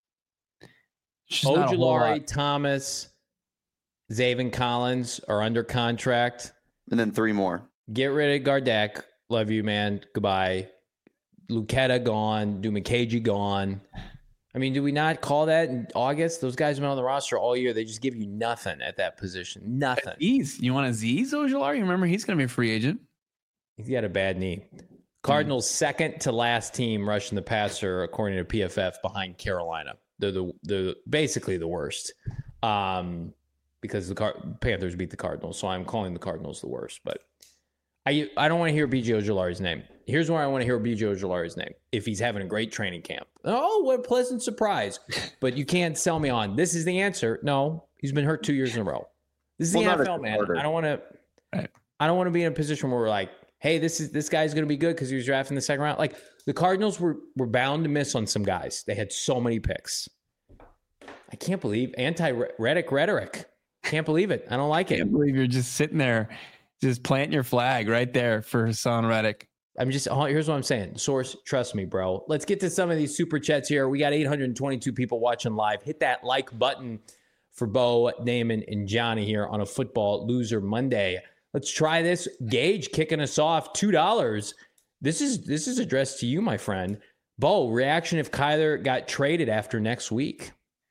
It's just not a whole lot. Ojulari, Thomas, Zaven Collins are under contract. And then three more. Get rid of Gardeck. Love you, man. Goodbye. Lucetta gone. Dumakaji gone. I mean, do we not call that in August? Those guys have been on the roster all year. They just give you nothing at that position. Nothing. Aziz. You want Aziz Ojulari? Remember, he's going to be a free agent. He's got a bad knee. Cardinals' second to last team rushing the passer, according to P F F, behind Carolina. They're the they're basically the worst, um, because the Car- Panthers beat the Cardinals. So I'm calling the Cardinals the worst. But I I don't want to hear B J Ojulari's name. Here's where I want to hear B J Ojulari's name. If he's having a great training camp, oh, what a pleasant surprise! But you can't sell me on this is the answer. No, he's been hurt two years in a row. This is Well, the not N a F L, man. starter. I don't want to. Right. I don't want to be in a position where we're like, hey, this is this guy's going to be good because he was drafted in the second round. Like the Cardinals were were bound to miss on some guys. They had so many picks. I can't believe anti-Reddick rhetoric. Can't believe it. I don't like I it. can't believe you're just sitting there, just planting your flag right there for Hassan Reddick. I'm just here's what I'm saying. Source, trust me, bro. Let's get to some of these super chats here. We got eight hundred twenty-two people watching live. Hit that like button for Bo, Damon, and Johnny here on a Football Loser Monday. Let's try this. Gage kicking us off. two dollars. This is this is addressed to you, my friend. Bo, reaction if Kyler got traded after next week.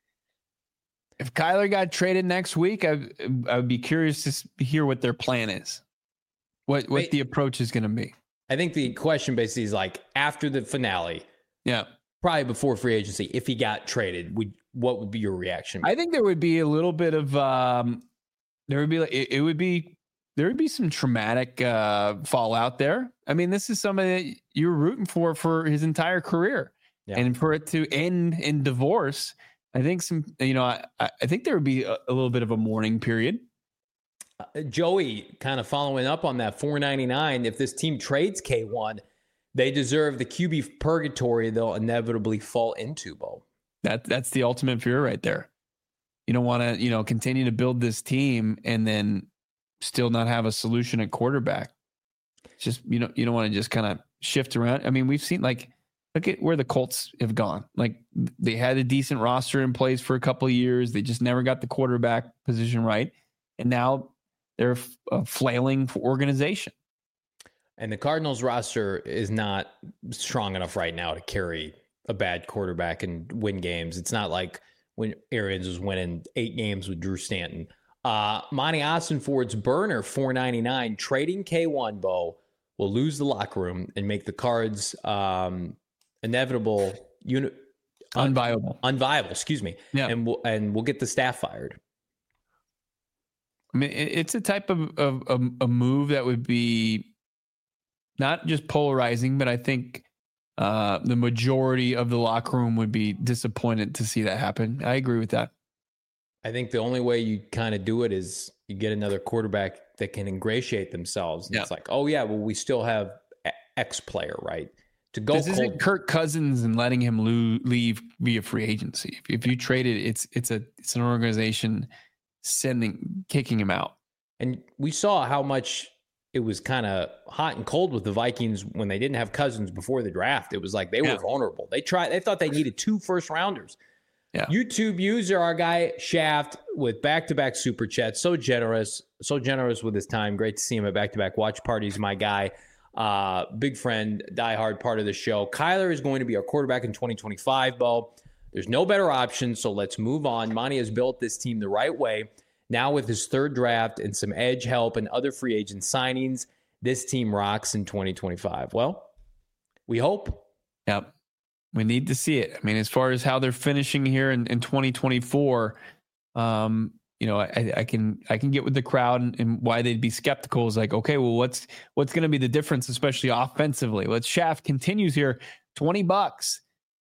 If Kyler got traded next week, I, I would be curious to s- hear what their plan is. What what Wait. the approach is going to be. I think the question basically is like after the finale, Yeah. probably before free agency, if he got traded, would what would be your reaction? I think there would be a little bit of um there would be like it, it would be there would be some traumatic uh fallout there. I mean, this is somebody that you're rooting for for his entire career. Yeah. And for it to end in divorce, I think some you know, I, I think there would be a, a little bit of a mourning period. Uh, Joey, kind of following up on that four ninety-nine, if this team trades K one, they deserve the Q B purgatory they'll inevitably fall into, Bo. That that's the ultimate fear right there. You don't want to, you know, continue to build this team and then still not have a solution at quarterback. It's just, you know, you don't want to just kind of shift around. I mean, we've seen like, look at where the Colts have gone. Like they had a decent roster in place for a couple of years. They just never got the quarterback position right. And now they're a flailing organization. And the Cardinals roster is not strong enough right now to carry a bad quarterback and win games. It's not like when Arians was winning eight games with Drew Stanton. Uh, Monty Ossenford's burner, four ninety-nine, trading K one, Bo, will lose the locker room and make the Cards um, inevitable uni- unviable, unviable. Excuse me. Yeah, and we'll and we'll get the staff fired. I mean, it's a type of, of, of a move that would be not just polarizing, but I think uh, the majority of the locker room would be disappointed to see that happen. I agree with that. I think the only way you kind of do it is you get another quarterback that can ingratiate themselves. And yeah. It's like, oh yeah, well, we still have X player, right? To go this cold. Isn't Kirk Cousins and letting him lo- leave via free agency. If, if you trade it, it's it's a it's an organization sending kicking him out. And we saw how much it was kind of hot and cold with the Vikings when they didn't have Cousins before the draft. It was like they yeah. were vulnerable. They tried. They thought they needed two first rounders. Yeah. YouTube user, our guy Shaft, with back-to-back super chats. So generous, so generous with his time. Great to see him at back-to-back watch parties. My guy, uh, big friend, diehard part of the show. Kyler is going to be our quarterback in twenty twenty-five, Bo. There's no better option, so let's move on. Monty has built this team the right way. Now with his third draft and some edge help and other free agent signings, this team rocks in twenty twenty-five. Well, we hope. Yep. We need to see it. I mean, as far as how they're finishing here in, in twenty twenty-four, um, you know, I, I can I can get with the crowd and, and why they'd be skeptical is like, okay, well, what's what's going to be the difference, especially offensively? Let's Shaft continues here, twenty bucks.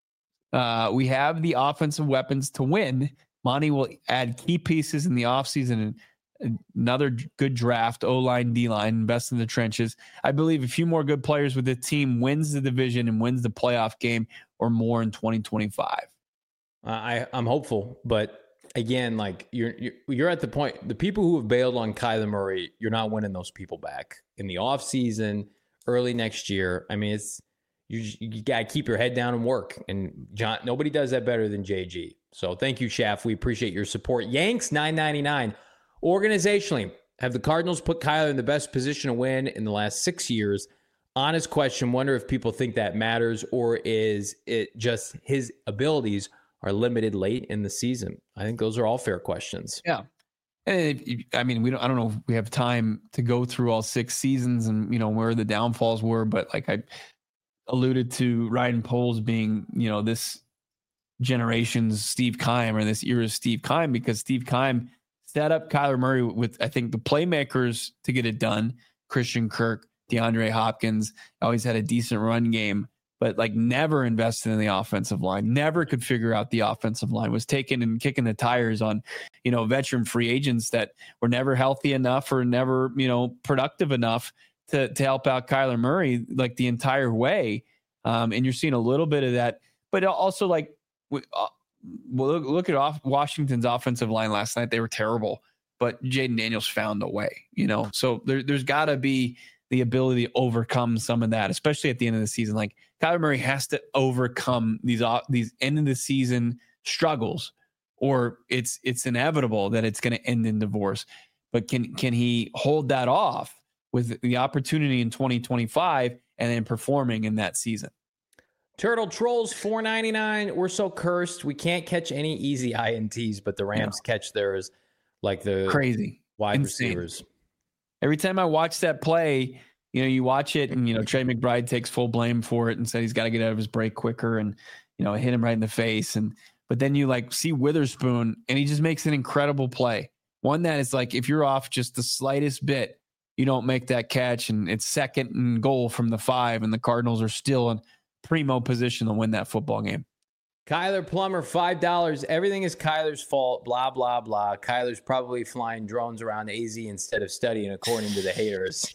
Uh, we have the offensive weapons to win. Monty will add key pieces in the offseason and another good draft, O-line, D-line, invest in the trenches. I believe a few more good players with the team wins the division and wins the playoff game or more in twenty twenty-five. Uh, I, I'm hopeful, but again, like you're, you're you're at the point, the people who have bailed on Kyler Murray, you're not winning those people back in the offseason, early next year. I mean, it's you you got to keep your head down and work. And John, nobody does that better than J G. So thank you, Shaft. We appreciate your support. Yanks nine ninety-nine. Organizationally, have the Cardinals put Kyler in the best position to win in the last six years? Honest question. Wonder if people think that matters, or is it just his abilities are limited late in the season? I think those are all fair questions. Yeah. And if, I mean, we don't, I don't know if we have time to go through all six seasons and, you know, where the downfalls were, but like I alluded to Ryan Poles being, you know, this generation's Steve Keim or this era's Steve Keim, because Steve Keim set up Kyler Murray with, I think, the playmakers to get it done. Christian Kirk, DeAndre Hopkins, always had a decent run game, but like never invested in the offensive line, never could figure out the offensive line, was taking and kicking the tires on, you know, veteran free agents that were never healthy enough or never, you know, productive enough to, to help out Kyler Murray like the entire way. Um, and you're seeing a little bit of that, but also like, uh, well, look, look at off Washington's offensive line last night. They were terrible, but Jaden Daniels found a way, you know, so there, there's gotta be the ability to overcome some of that, especially at the end of the season. Like Kyler Murray has to overcome these these end of the season struggles, or it's it's inevitable that it's going to end in divorce. But can can he hold that off with the opportunity in twenty twenty-five and then performing in that season? Turtle Trolls four ninety-nine. We're so cursed. We can't catch any easy I N Ts, but the Rams yeah. catch theirs like the crazy wide Insane. receivers. Every time I watch that play, you know, you watch it and, you know, Trey McBride takes full blame for it and said he's got to get out of his break quicker and, you know, hit him right in the face. And, but then you like see Witherspoon and he just makes an incredible play. One that is like, if you're off just the slightest bit, you don't make that catch and it's second and goal from the five and the Cardinals are still in primo position to win that football game. Kyler Plummer, five dollars. Everything is Kyler's fault, blah, blah, blah. Kyler's probably flying drones around A Z instead of studying, according to the haters.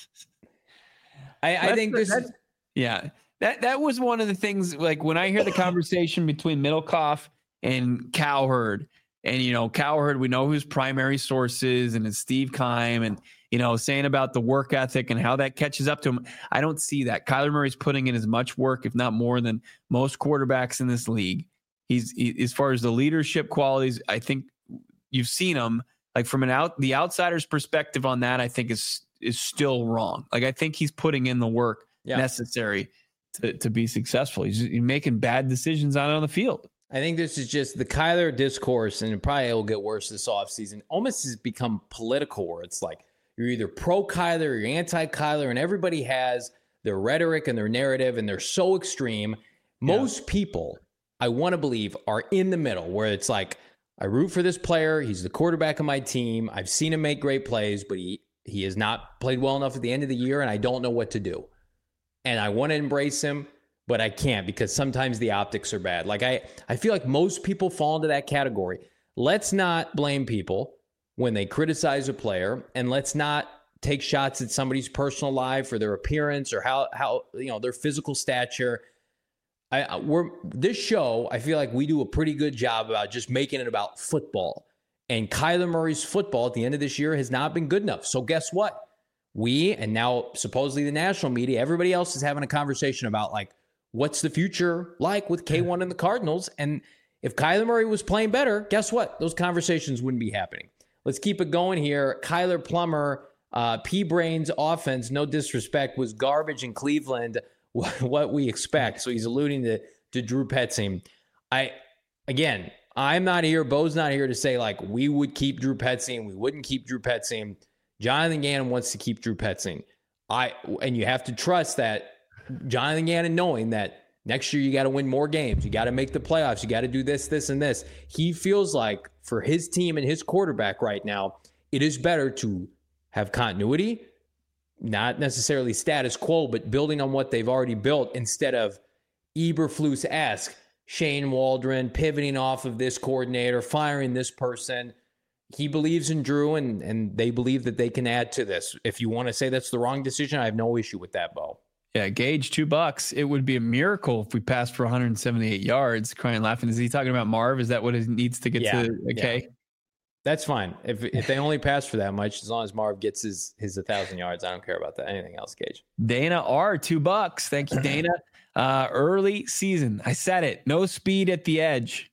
I, I think this is... Yeah, that, that was one of the things, like when I hear the conversation between Middlecoff and Cowherd, and, you know, Cowherd, we know whose primary source is, and it's Steve Keim, and, you know, saying about the work ethic and how that catches up to him. I don't see that. Kyler Murray's putting in as much work, if not more, than most quarterbacks in this league. He's he, as far as the leadership qualities, I think you've seen him like from an out the outsider's perspective on that. I think is is still wrong. Like I think he's putting in the work yeah. necessary to to be successful. He's, he's making bad decisions out on the field. I think this is just the Kyler discourse, and it probably will get worse this offseason. Almost has become political, where it's like you're either pro Kyler or you're anti Kyler, and everybody has their rhetoric and their narrative, and they're so extreme. Most yeah. people I want to believe, are in the middle where it's like, I root for this player. He's the quarterback of my team. I've seen him make great plays, but he, he has not played well enough at the end of the year, and I don't know what to do. And I want to embrace him, but I can't because sometimes the optics are bad. Like I, I feel like most people fall into that category. Let's not blame people when they criticize a player, and let's not take shots at somebody's personal life or their appearance or how, how you know, their physical stature. I, we're this show, I feel like we do a pretty good job about just making it about football. And Kyler Murray's football at the end of this year has not been good enough. So guess what? We, and now supposedly the national media, everybody else is having a conversation about like, what's the future like with K one and the Cardinals? And if Kyler Murray was playing better, guess what? Those conversations wouldn't be happening. Let's keep it going here. Kyler Plummer, uh, P-Brain's offense, no disrespect, was garbage in Cleveland. What we expect. So he's alluding to, to Drew Petzing. I, again, I'm not here. Bo's not here to say like we would keep Drew Petzing. We wouldn't keep Drew Petzing. Jonathan Gannon wants to keep Drew Petzing. I, and you have to trust that Jonathan Gannon, knowing that next year you got to win more games. You got to make the playoffs. You got to do this, this, and this. He feels like for his team and his quarterback right now, it is better to have continuity, not necessarily status quo, but building on what they've already built instead of Eberflus-esque Shane Waldron pivoting off of this coordinator, firing this person. He believes in Drew, and, and they believe that they can add to this. If you want to say that's the wrong decision, I have no issue with that, Bo. Yeah, Gage, two bucks. It would be a miracle if we passed for one hundred seventy-eight yards. Crying, laughing. Is he talking about Marv? Is that what it needs to get yeah, to? Okay. Yeah. That's fine. If if they only pass for that much, as long as Marv gets his his one thousand yards, I don't care about that. Anything else, Gage? Dana R, two bucks. Thank you, Dana. Uh, early season. I said it. No speed at the edge.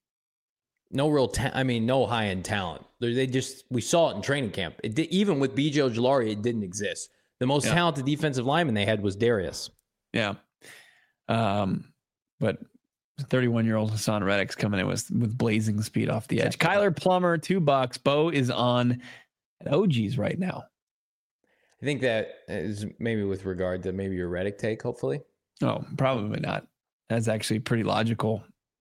No real, ta- I mean, no high-end talent. They just, we saw it in training camp. It did, even with B J Ojulari, it didn't exist. The most yeah. talented defensive lineman they had was Darius. Yeah. Um, but thirty-one-year-old Hassan Reddick's coming in with, with blazing speed off the edge. Exactly. Kyler Plummer, two bucks. Bo is on at O G's right now. I think that is maybe with regard to maybe your Reddick take, hopefully. Oh, probably not. That's actually pretty logical.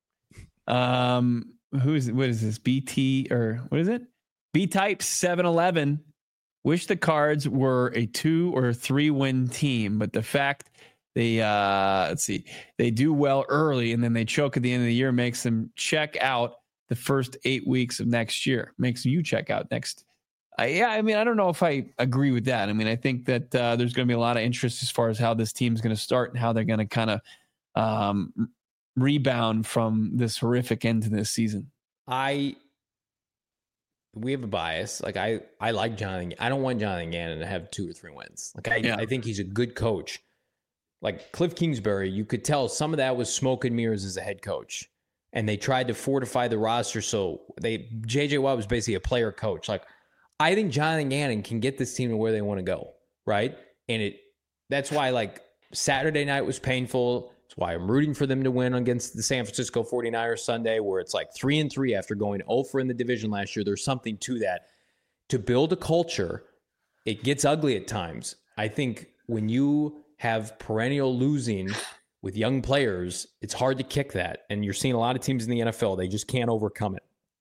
Um, who's what is this? B T or what is it? B-Type seven eleven. Wish the Cards were a two or three win team, but the fact they uh let's see, they do well early and then they choke at the end of the year makes them check out the first eight weeks of next year. Makes you check out next. Uh, yeah, I mean, I don't know if I agree with that. I mean, I think that uh, there's going to be a lot of interest as far as how this team's going to start and how they're going to kind of um, rebound from this horrific end to this season. I, we have a bias. Like I, I like Jonathan. I don't want Jonathan Gannon to have two or three wins. Like I, yeah. I think he's a good coach. Like Cliff Kingsbury, you could tell some of that was smoke and mirrors as a head coach, and they tried to fortify the roster. So they, J J Watt was basically a player coach. Like I think Jonathan Gannon can get this team to where they want to go, right? And it, that's why like Saturday night was painful. That's why I'm rooting for them to win against the San Francisco forty-niners Sunday, where it's like three and three after going oh for in the division last year. There's something to that. To build a culture, it gets ugly at times. I think when you have perennial losing with young players, it's hard to kick that. And you're seeing a lot of teams in the N F L, they just can't overcome it.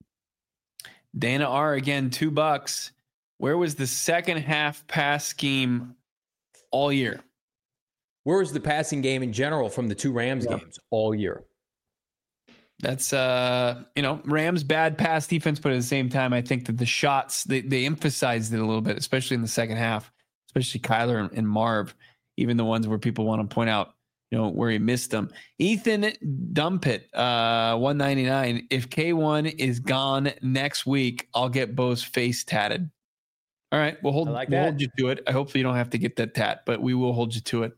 Dana R again, two bucks. Where was the second half pass scheme all year? Where was the passing game in general from the two Rams yeah. games all year? That's, uh, you know, Rams bad pass defense, but at the same time, I think that the shots, they, they emphasized it a little bit, especially in the second half, especially Kyler and, and Marv, even the ones where people want to point out, you know, where he missed them. Ethan Dumpit, uh, one ninety-nine. If K one is gone next week, I'll get Bo's face tatted. All right, we'll hold, like we'll hold you to it. I hope you don't have to get that tat, but we will hold you to it.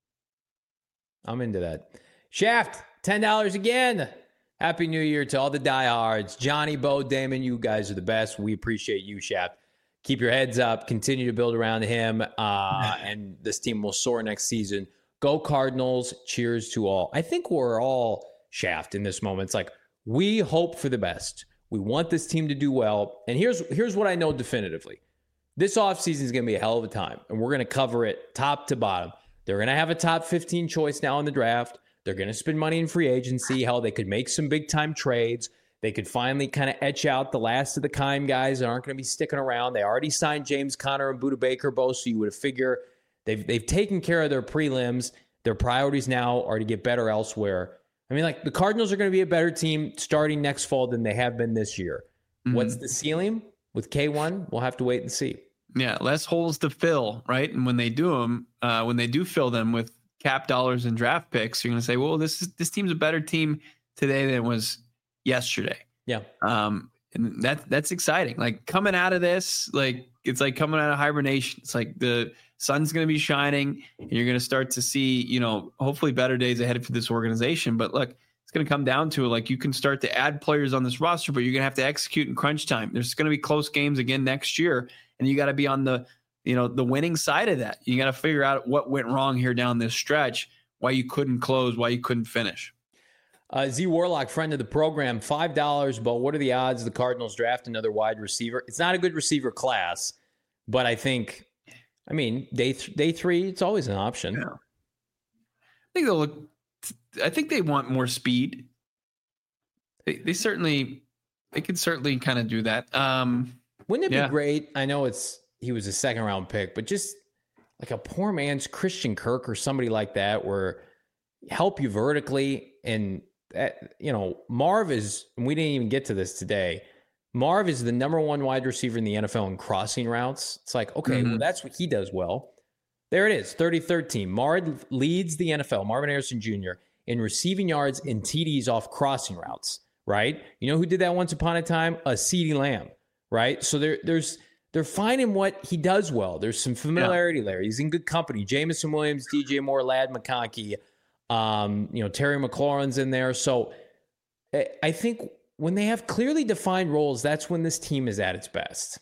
I'm into that. Shaft, ten dollars again. Happy New Year to all the diehards. Johnny, Bo, Damon, you guys are the best. We appreciate you, Shaft. Keep your heads up. Continue to build around him, uh, and this team will soar next season. Go Cardinals. Cheers to all. I think we're all Shaft in this moment. It's like we hope for the best. We want this team to do well. And here's here's what I know definitively. This offseason is going to be a hell of a time, and we're going to cover it top to bottom. They're going to have a top fifteen choice now in the draft. They're going to spend money in free agency. Hell, they could make some big time trades. They could finally kind of etch out the last of the Keim guys that aren't going to be sticking around. They already signed James Conner and Budda Baker both, so you would figure they've they've taken care of their prelims. Their priorities now are to get better elsewhere. I mean, like, the Cardinals are going to be a better team starting next fall than they have been this year. Mm-hmm. What's the ceiling with K one? We'll have to wait and see. Yeah, less holes to fill, right? And when they do them, uh, when they do fill them with cap dollars and draft picks, you're going to say, well, this is this team's a better team today than it was yesterday. Yeah. Um, and that that's exciting. Like, coming out of this, like, it's like coming out of hibernation. It's like the sun's going to be shining and you're going to start to see, you know, hopefully better days ahead for this organization. But look, it's going to come down to, like, you can start to add players on this roster, but you're going to have to execute in crunch time. There's going to be close games again next year, and you got to be on the, you know, the winning side of that. You got to figure out what went wrong here down this stretch, why you couldn't close, why you couldn't finish. Uh, Z Warlock, friend of the program, five dollars. But what are the odds the Cardinals draft another wide receiver? It's not a good receiver class, but I think, I mean, day th- day three, it's always an option. Yeah. I think they'll look. I think they want more speed. They, they certainly, they could certainly kind of do that. Um, Wouldn't it yeah. be great? I know it's he was a second round pick, but just like a poor man's Christian Kirk or somebody like that, where help you vertically. And that, you know, Marv is. And we didn't even get to this today. Marv is the number one wide receiver in the N F L in crossing routes. It's like, okay, mm-hmm. well, that's what he does well. There it is, thirty-third team. Marv leads the N F L, Marvin Harrison Junior, in receiving yards and T Ds off crossing routes, right? You know who did that once upon a time? A CeeDee Lamb, right? So there, there's they're finding what he does well. There's some familiarity yeah. there. He's in good company. Jamison Williams, D J Moore, Ladd McConkey, um, you know, Terry McLaurin's in there. So I think when they have clearly defined roles, that's when this team is at its best.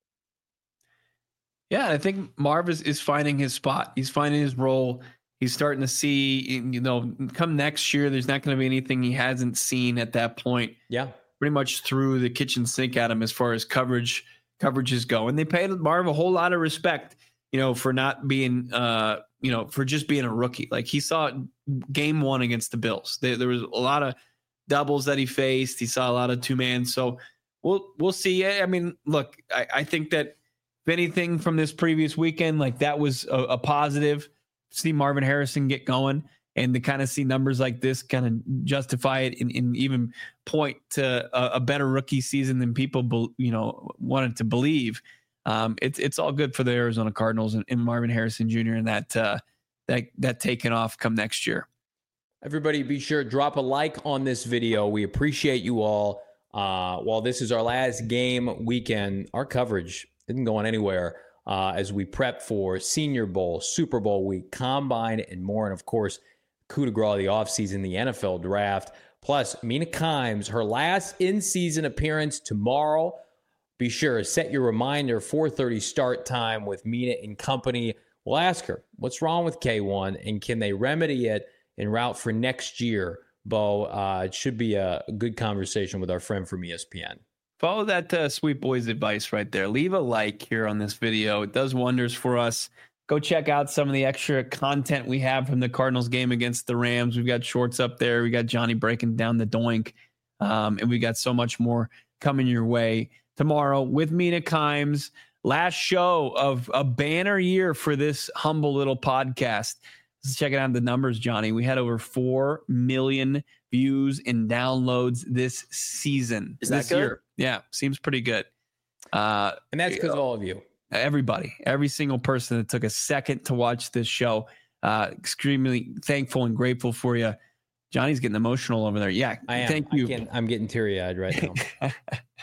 Yeah, I think Marv is, is finding his spot. He's finding his role. He's starting to see, you know, come next year, there's not going to be anything he hasn't seen at that point. Yeah. Pretty much threw the kitchen sink at him as far as coverage coverages go. And they paid Marv a whole lot of respect, you know, for not being, uh, you know, for just being a rookie. Like, he saw game one against the Bills. There, there was a lot of doubles that he faced. He saw a lot of two man. So we'll, we'll see. I mean, look, I, I think that if anything from this previous weekend, like, that was a, a positive. See Marvin Harrison get going, and to kind of see numbers like this kind of justify it and, and even point to a, a better rookie season than people, be, you know, wanted to believe. Um, it's it's all good for the Arizona Cardinals and, and Marvin Harrison Junior and that uh, that that taking off come next year. Everybody, be sure to drop a like on this video. We appreciate you all. Uh, while this is our last game weekend, our coverage isn't going anywhere. Uh, as we prep for Senior Bowl, Super Bowl week, Combine, and more. And, of course, coup de grace of the offseason, the N F L draft. Plus, Mina Kimes, her last in-season appearance tomorrow. Be sure to set your reminder, four thirty start time with Mina and company. We'll ask her, what's wrong with K one, and can they remedy it en route for next year? Bo, uh, it should be a good conversation with our friend from E S P N. Follow that uh, sweet boy's advice right there. Leave a like here on this video. It does wonders for us. Go check out some of the extra content we have from the Cardinals game against the Rams. We've got shorts up there. We got Johnny breaking down the doink. Um, and we got so much more coming your way tomorrow with Mina Kimes. Last show of a banner year for this humble little podcast. Let's check out the numbers, Johnny. We had over four million views and downloads this season. Is this that good? year. Yeah, seems pretty good. Uh, and that's because of all of you. Everybody, every single person that took a second to watch this show. Uh, extremely thankful and grateful for you. Johnny's getting emotional over there. Yeah, I am. Thank you. I I'm getting teary-eyed right now. I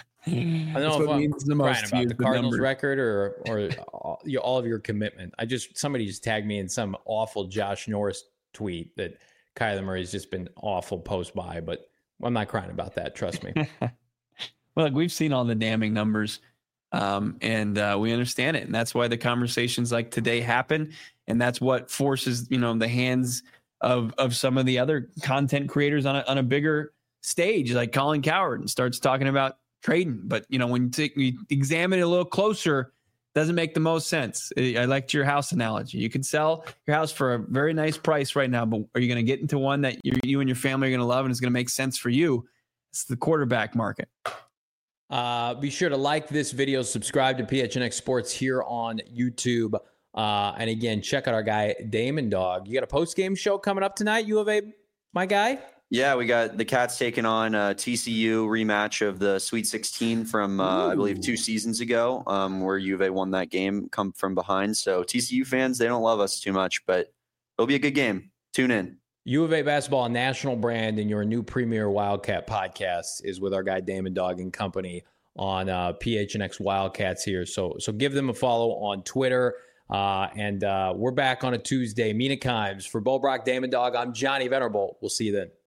don't That's know what if I'm means the most crying about the the Cardinals number. record or or all, you know, all of your commitment. I just somebody just tagged me in some awful Josh Norris tweet that Kyler Murray's just been awful post by, but I'm not crying about that. Trust me. Well, look, we've seen all the damning numbers, um, and uh, we understand it, and that's why the conversations like today happen, and that's what forces you know the hands of of some of the other content creators on a, on a bigger stage, like Colin Cowherd, and starts talking about trading. But you know, when you, take, you examine it a little closer, doesn't make the most sense. I liked your house analogy. You can sell your house for a very nice price right now, but are you going to get into one that you, you and your family are going to love and it's going to make sense for you? It's the quarterback market. Uh, be sure to like this video, subscribe to P H N X Sports here on YouTube. Uh, and again, check out our guy, Damon Dog. You got a post-game show coming up tonight, U of A, my guy? Yeah, we got the Cats taking on a T C U rematch of the Sweet sixteen from, uh, I believe, two seasons ago, um, where U of A won that game, come from behind. So T C U fans, they don't love us too much, but it'll be a good game. Tune in. U of A basketball national brand, and your new premier Wildcat podcast is with our guy Damon Dog and company on uh, P H N X Wildcats here. So, so give them a follow on Twitter. Uh, and uh, we're back on a Tuesday. Mina Kimes for Bo Brock, Damon Dog. I'm Johnny Venerable. We'll see you then.